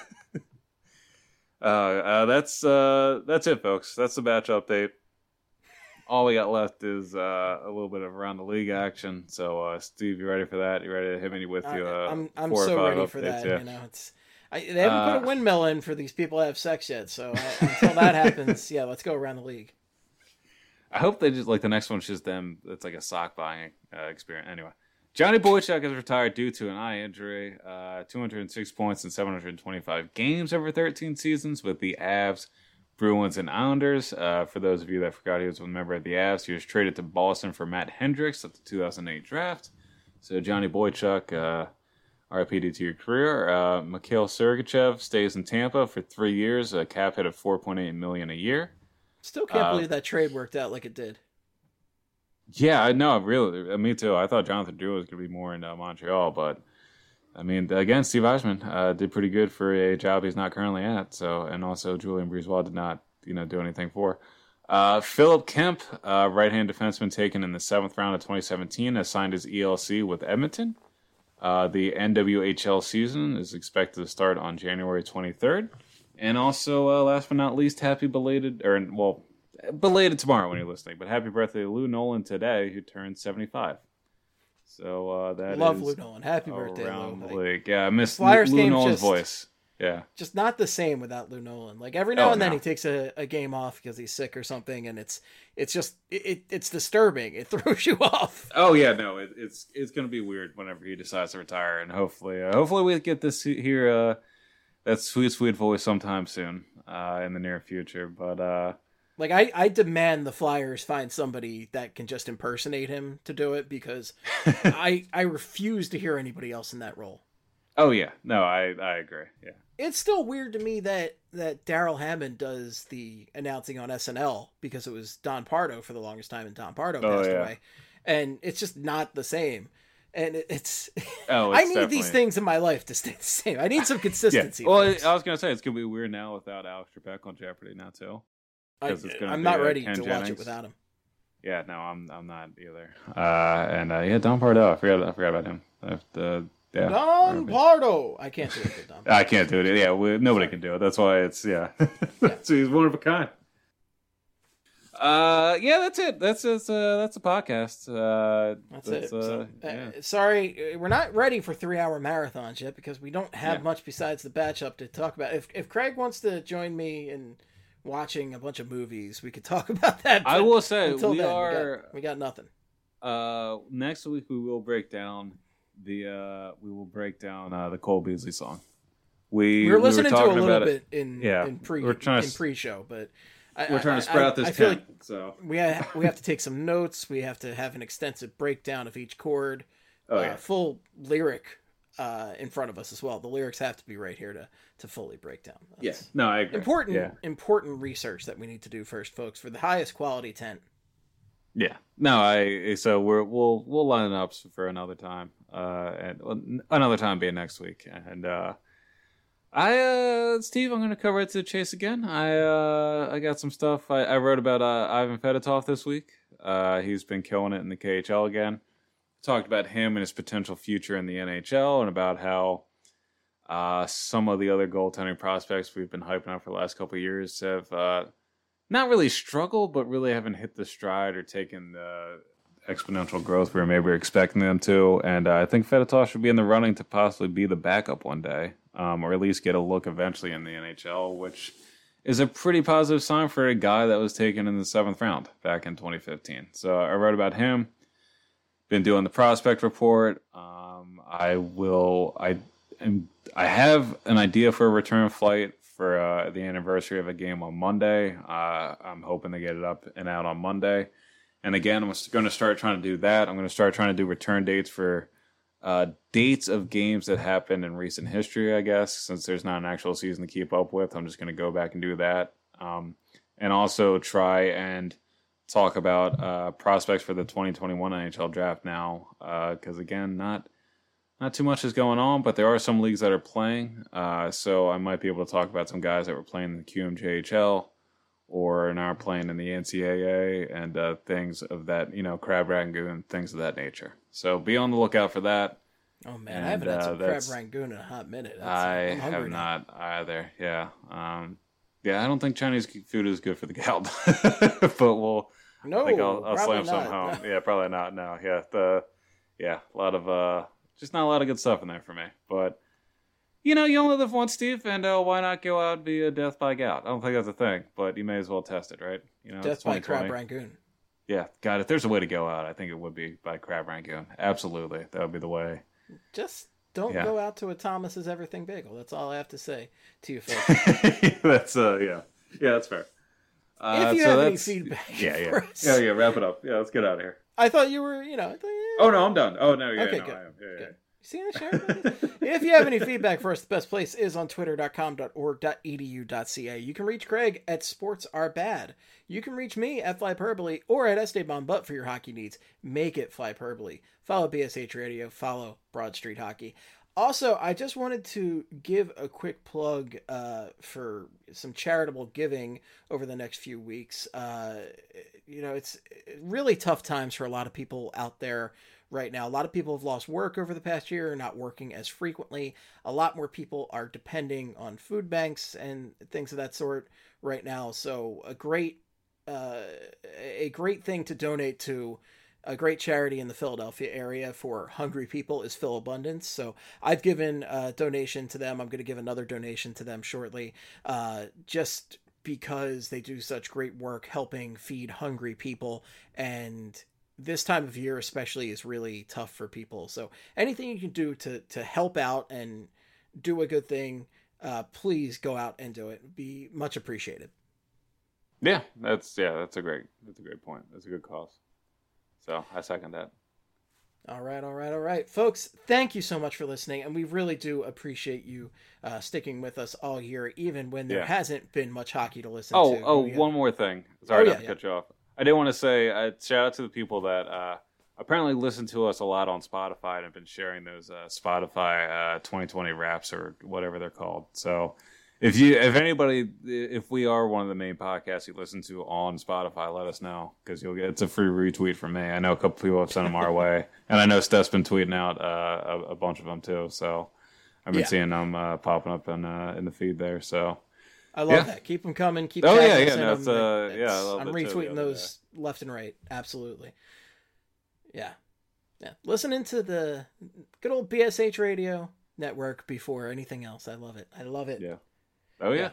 uh, uh, that's uh, that's it, folks. That's the batch update. All we got left is uh, a little bit of around the league action. So, uh, Steve, you ready for that? You ready to hit me with you? Uh, I, I'm I'm four or so five ready updates, for that. yeah. You know, it's I, they haven't Uh, put a windmill in for these people to have sex yet. So uh, until that happens, yeah, let's go around the league. I hope they just like the next one's just them. It's like a sock buying uh, experience. Anyway, Johnny Boychuk is retired due to an eye injury. Uh, two hundred six points in seven hundred twenty-five games over thirteen seasons with the Avs, Bruins, and Islanders. Uh, for those of you that forgot he was a member of the Avs, he was traded to Boston for Matt Hendricks at the two thousand eight draft. So Johnny Boychuk, uh, R I P D to your career. Uh, Mikhail Sergachev stays in Tampa for three years, a cap hit of four point eight million dollars a year. Still can't Uh, believe that trade worked out like it did. Yeah, I know, really. uh, Me too. I thought Jonathan Drew was going to be more in uh, Montreal, but I mean, again, Steve Eisman uh, did pretty good for a job he's not currently at. So, and also Julian Breezewell did not, you know, do anything for. Uh, Philip Kemp, uh, right-hand defenseman taken in the seventh round of twenty seventeen, has signed his E L C with Edmonton. Uh, the N W H L season is expected to start on January twenty-third. And also, uh, last but not least, happy belated, or well, belated tomorrow when you're listening, but happy birthday to Lou Nolan today, who turned seventy-five. So uh, that Love is Lou Nolan. Happy birthday, around Lou. the Like, league. Yeah, I miss Lou, Flyers Lou game Nolan's just- voice. Yeah. just not the same without Lou Nolan. Like every now Oh, and then no. he takes a, a game off because he's sick or something, and it's it's just it, it's disturbing. It throws you off. Oh yeah, no, it, it's it's gonna be weird whenever he decides to retire, and hopefully, uh, hopefully we get this here uh, that sweet sweet voice sometime soon uh, in the near future. But uh, Like I, I demand the Flyers find somebody that can just impersonate him to do it because I I refuse to hear anybody else in that role. oh yeah, no, I I agree. Yeah. It's still weird to me that that Daryl Hammond does the announcing on S N L because it was Don Pardo for the longest time, and Don Pardo Oh, passed yeah. away, and it's just not the same. And it, it's, Oh, I it's need definitely- these things in my life to stay the same. I need some Yeah. consistency. Well, folks. I was gonna say it's gonna be weird now without Alex Trebek on Jeopardy now too. I, 'cause it's gonna I'm be, not uh, ready Ken to watch Jennings. it without him. Yeah, no, I'm I'm not either. Uh, and uh, yeah, Don Pardo, I forgot I forgot about him. I have to, yeah, Don Pardo. I can't do it with Don. I can't do it. Yeah, we, nobody can do it. That's why it's yeah. So he's one of a kind. Uh, yeah, that's it. That's it's uh that's a podcast. Uh, That's, it. Uh, So, uh, yeah. sorry, uh, we're not ready for three-hour marathons yet because we don't have Yeah. much besides the batch up to talk about. If if Craig wants to join me in watching a bunch of movies, we could talk about that. I but will say until we then, are. We got, we got nothing. Uh, next week we will break down the uh we will break down uh the Cole Beasley song. We We were listening to a talking little about bit it. in Yeah, in pre we're trying to in s- pre-show, but I, We're trying I- to spread I- out this I feel tent. like So we have, we have to take some notes. We have to have an extensive breakdown of each chord. oh uh, yeah, full lyric uh, in front of us as well. The lyrics have to be right here to to fully break down. yes. That's No, I agree. important Yeah. important research that we need to do first, folks, for the highest quality tent. Yeah. No, I so we're we'll we'll line up for another time. Uh, and well, another time being next week. And uh, I uh, Steve, I'm gonna cover it to the chase again. I uh, I got some stuff. I, I wrote about uh, Ivan Fedotov this week. Uh, he's been killing it in the K H L again. Talked about him and his potential future in the N H L, and about how uh, some of the other goaltending prospects we've been hyping up for the last couple of years have. Uh, Not really struggled, but really haven't hit the stride or taken the exponential growth we were maybe expecting them to. And uh, I think Fedotov should be in the running to possibly be the backup one day, um, or at least get a look eventually in the N H L, which is a pretty positive sign for a guy that was taken in the seventh round back in twenty fifteen. So I wrote about him. Been doing the prospect report. Um, I will. I am. I have an idea for a return flight for uh, the anniversary of a game on Monday. Uh, I'm hoping to get it up and out on Monday. And again, I'm going to start trying to do that. I'm going to start trying to do return dates for uh, dates of games that happened in recent history, I guess, since there's not an actual season to keep up with. I'm just going to go back and do that. Um, and also try and talk about uh, prospects for the twenty twenty-one N H L draft now. Because, uh, again, not... Not too much is going on, but there are some leagues that are playing. Uh, so I might be able to talk about some guys that were playing in the Q M J H L or now are playing in the N C double A and uh, things of that, you know, Crab Rangoon, things of that nature. So be on the lookout for that. Oh, man, and, I haven't had some uh, Crab Rangoon in a hot minute. That's, I have now. not either, yeah. Um, yeah, I don't think Chinese food is good for the gout, but we'll... No, I think I'll, I'll slam not. some home. Yeah, probably not, no. Yeah, the, yeah, a lot of... Uh, Just not a lot of good stuff in there for me. But, you know, you only live once, Steve, and uh, why not go out via death by gout? I don't think that's a thing, but you may as well test it, right? You know, death by Crab Rangoon. Yeah, God, if there's a way to go out, I think it would be by Crab Rangoon. Absolutely. That would be the way. Just don't yeah. go out to a Thomas's Everything Bagel. That's all I have to say to you folks. that's, uh, yeah. Yeah, that's fair. Uh, if you so have any that's... feedback. Yeah, yeah. Yeah, yeah, wrap it up. Yeah, let's get out of here. I thought you were, you know. I thought, yeah. Oh, no, I'm done. Oh, no, yeah, okay, no, good. I am. Yeah, yeah. Good. See the show? If you have any feedback for us, the best place is on twitter dot com dot org dot e d u dot c a. You can reach Craig at Sports Are Bad. You can reach me at Flyperbole or at Esteban Butt for your hockey needs. Make it Flyperbole. Follow B S H Radio. Follow Broad Street Hockey. Also, I just wanted to give a quick plug uh, for some charitable giving over the next few weeks. Uh, you know, it's really tough times for a lot of people out there right now. A lot of people have lost work over the past year, not working as frequently. A lot more people are depending on food banks and things of that sort right now. So a great, uh, a great thing to donate to a great charity in the Philadelphia area for hungry people is Phil Abundance. So I've given a donation to them. I'm going to give another donation to them shortly, uh, just because they do such great work helping feed hungry people. And this time of year especially is really tough for people. So anything you can do to, to help out and do a good thing, uh, please go out and do it. It'd be much appreciated. Yeah, that's, yeah, that's a great, that's a great point. That's a good cause. So I second that. All right, all right, all right. Folks, thank you so much for listening. And we really do appreciate you uh, sticking with us all year, even when there yeah. hasn't been much hockey to listen oh, to. Oh, have... one more thing. Sorry oh, not yeah, to yeah. cut you off. I did want to say, uh, shout out to the people that uh, apparently listen to us a lot on Spotify and have been sharing those uh, Spotify uh, twenty twenty wraps or whatever they're called. So if you, if anybody, if we are one of the main podcasts you listen to on Spotify, let us know, because you'll get, it's a free retweet from me. I know a couple people have sent them our way, and I know Steph's been tweeting out uh, a, a bunch of them too. So I've been yeah. seeing them uh, popping up in uh, in the feed there. So I love yeah. that. Keep them coming. Keep. Oh yeah, yeah. No, it's, uh, it's, yeah. I love I'm retweeting those day. left and right. Absolutely. Yeah, yeah. Listening to the good old B S H Radio network before anything else. I love it. I love it. Yeah. Oh, yeah. yeah.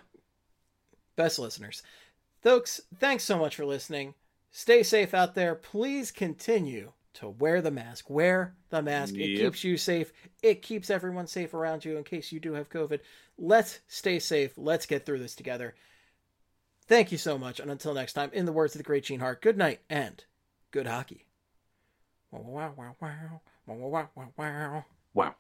Best listeners. Folks, thanks so much for listening. Stay safe out there. Please continue to wear the mask. Wear the mask. Yep. It keeps you safe. It keeps everyone safe around you in case you do have COVID. Let's stay safe. Let's get through this together. Thank you so much. And until next time, in the words of the great Gene Hart, good night and good hockey. Wow, wow, wow, wow. Wow, wow, wow, wow. Wow.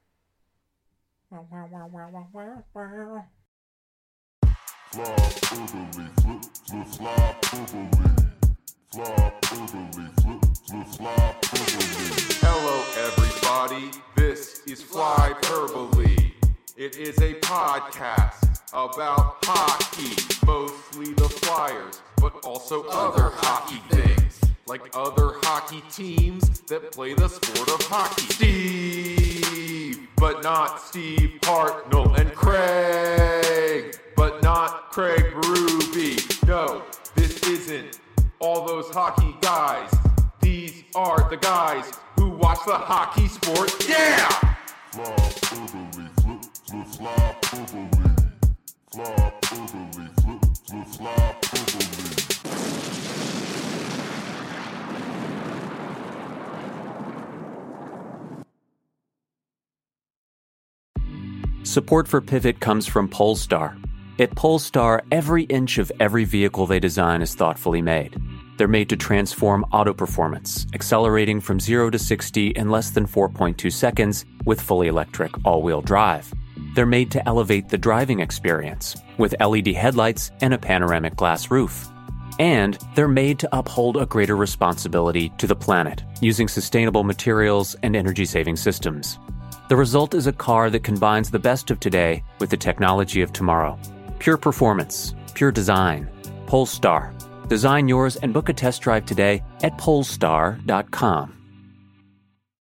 Wow, wow, wow, wow, wow, wow. Fly, burglary, flip, flip, fly, burglary. Hello everybody, this is Flyperbole. It is a podcast about hockey, mostly the Flyers, but also other hockey things, like other hockey teams that play the sport of hockey. Steve, but not Steve Hartnell, and Craig, but not Craig Berube. No, this isn't all those hockey guys. These are the guys who watch the hockey sport. Yeah! Flyperbole, flip, flip, Flyperbole. Flyperbole, flip, flip, Flyperbole. Support for Pivot comes from Polestar. At Polestar, every inch of every vehicle they design is thoughtfully made. They're made to transform auto performance, accelerating from zero to sixty in less than four point two seconds with fully electric all-wheel drive. They're made to elevate the driving experience with L E D headlights and a panoramic glass roof. And they're made to uphold a greater responsibility to the planet using sustainable materials and energy-saving systems. The result is a car that combines the best of today with the technology of tomorrow. Pure performance, pure design. Polestar. Design yours and book a test drive today at polestar dot com.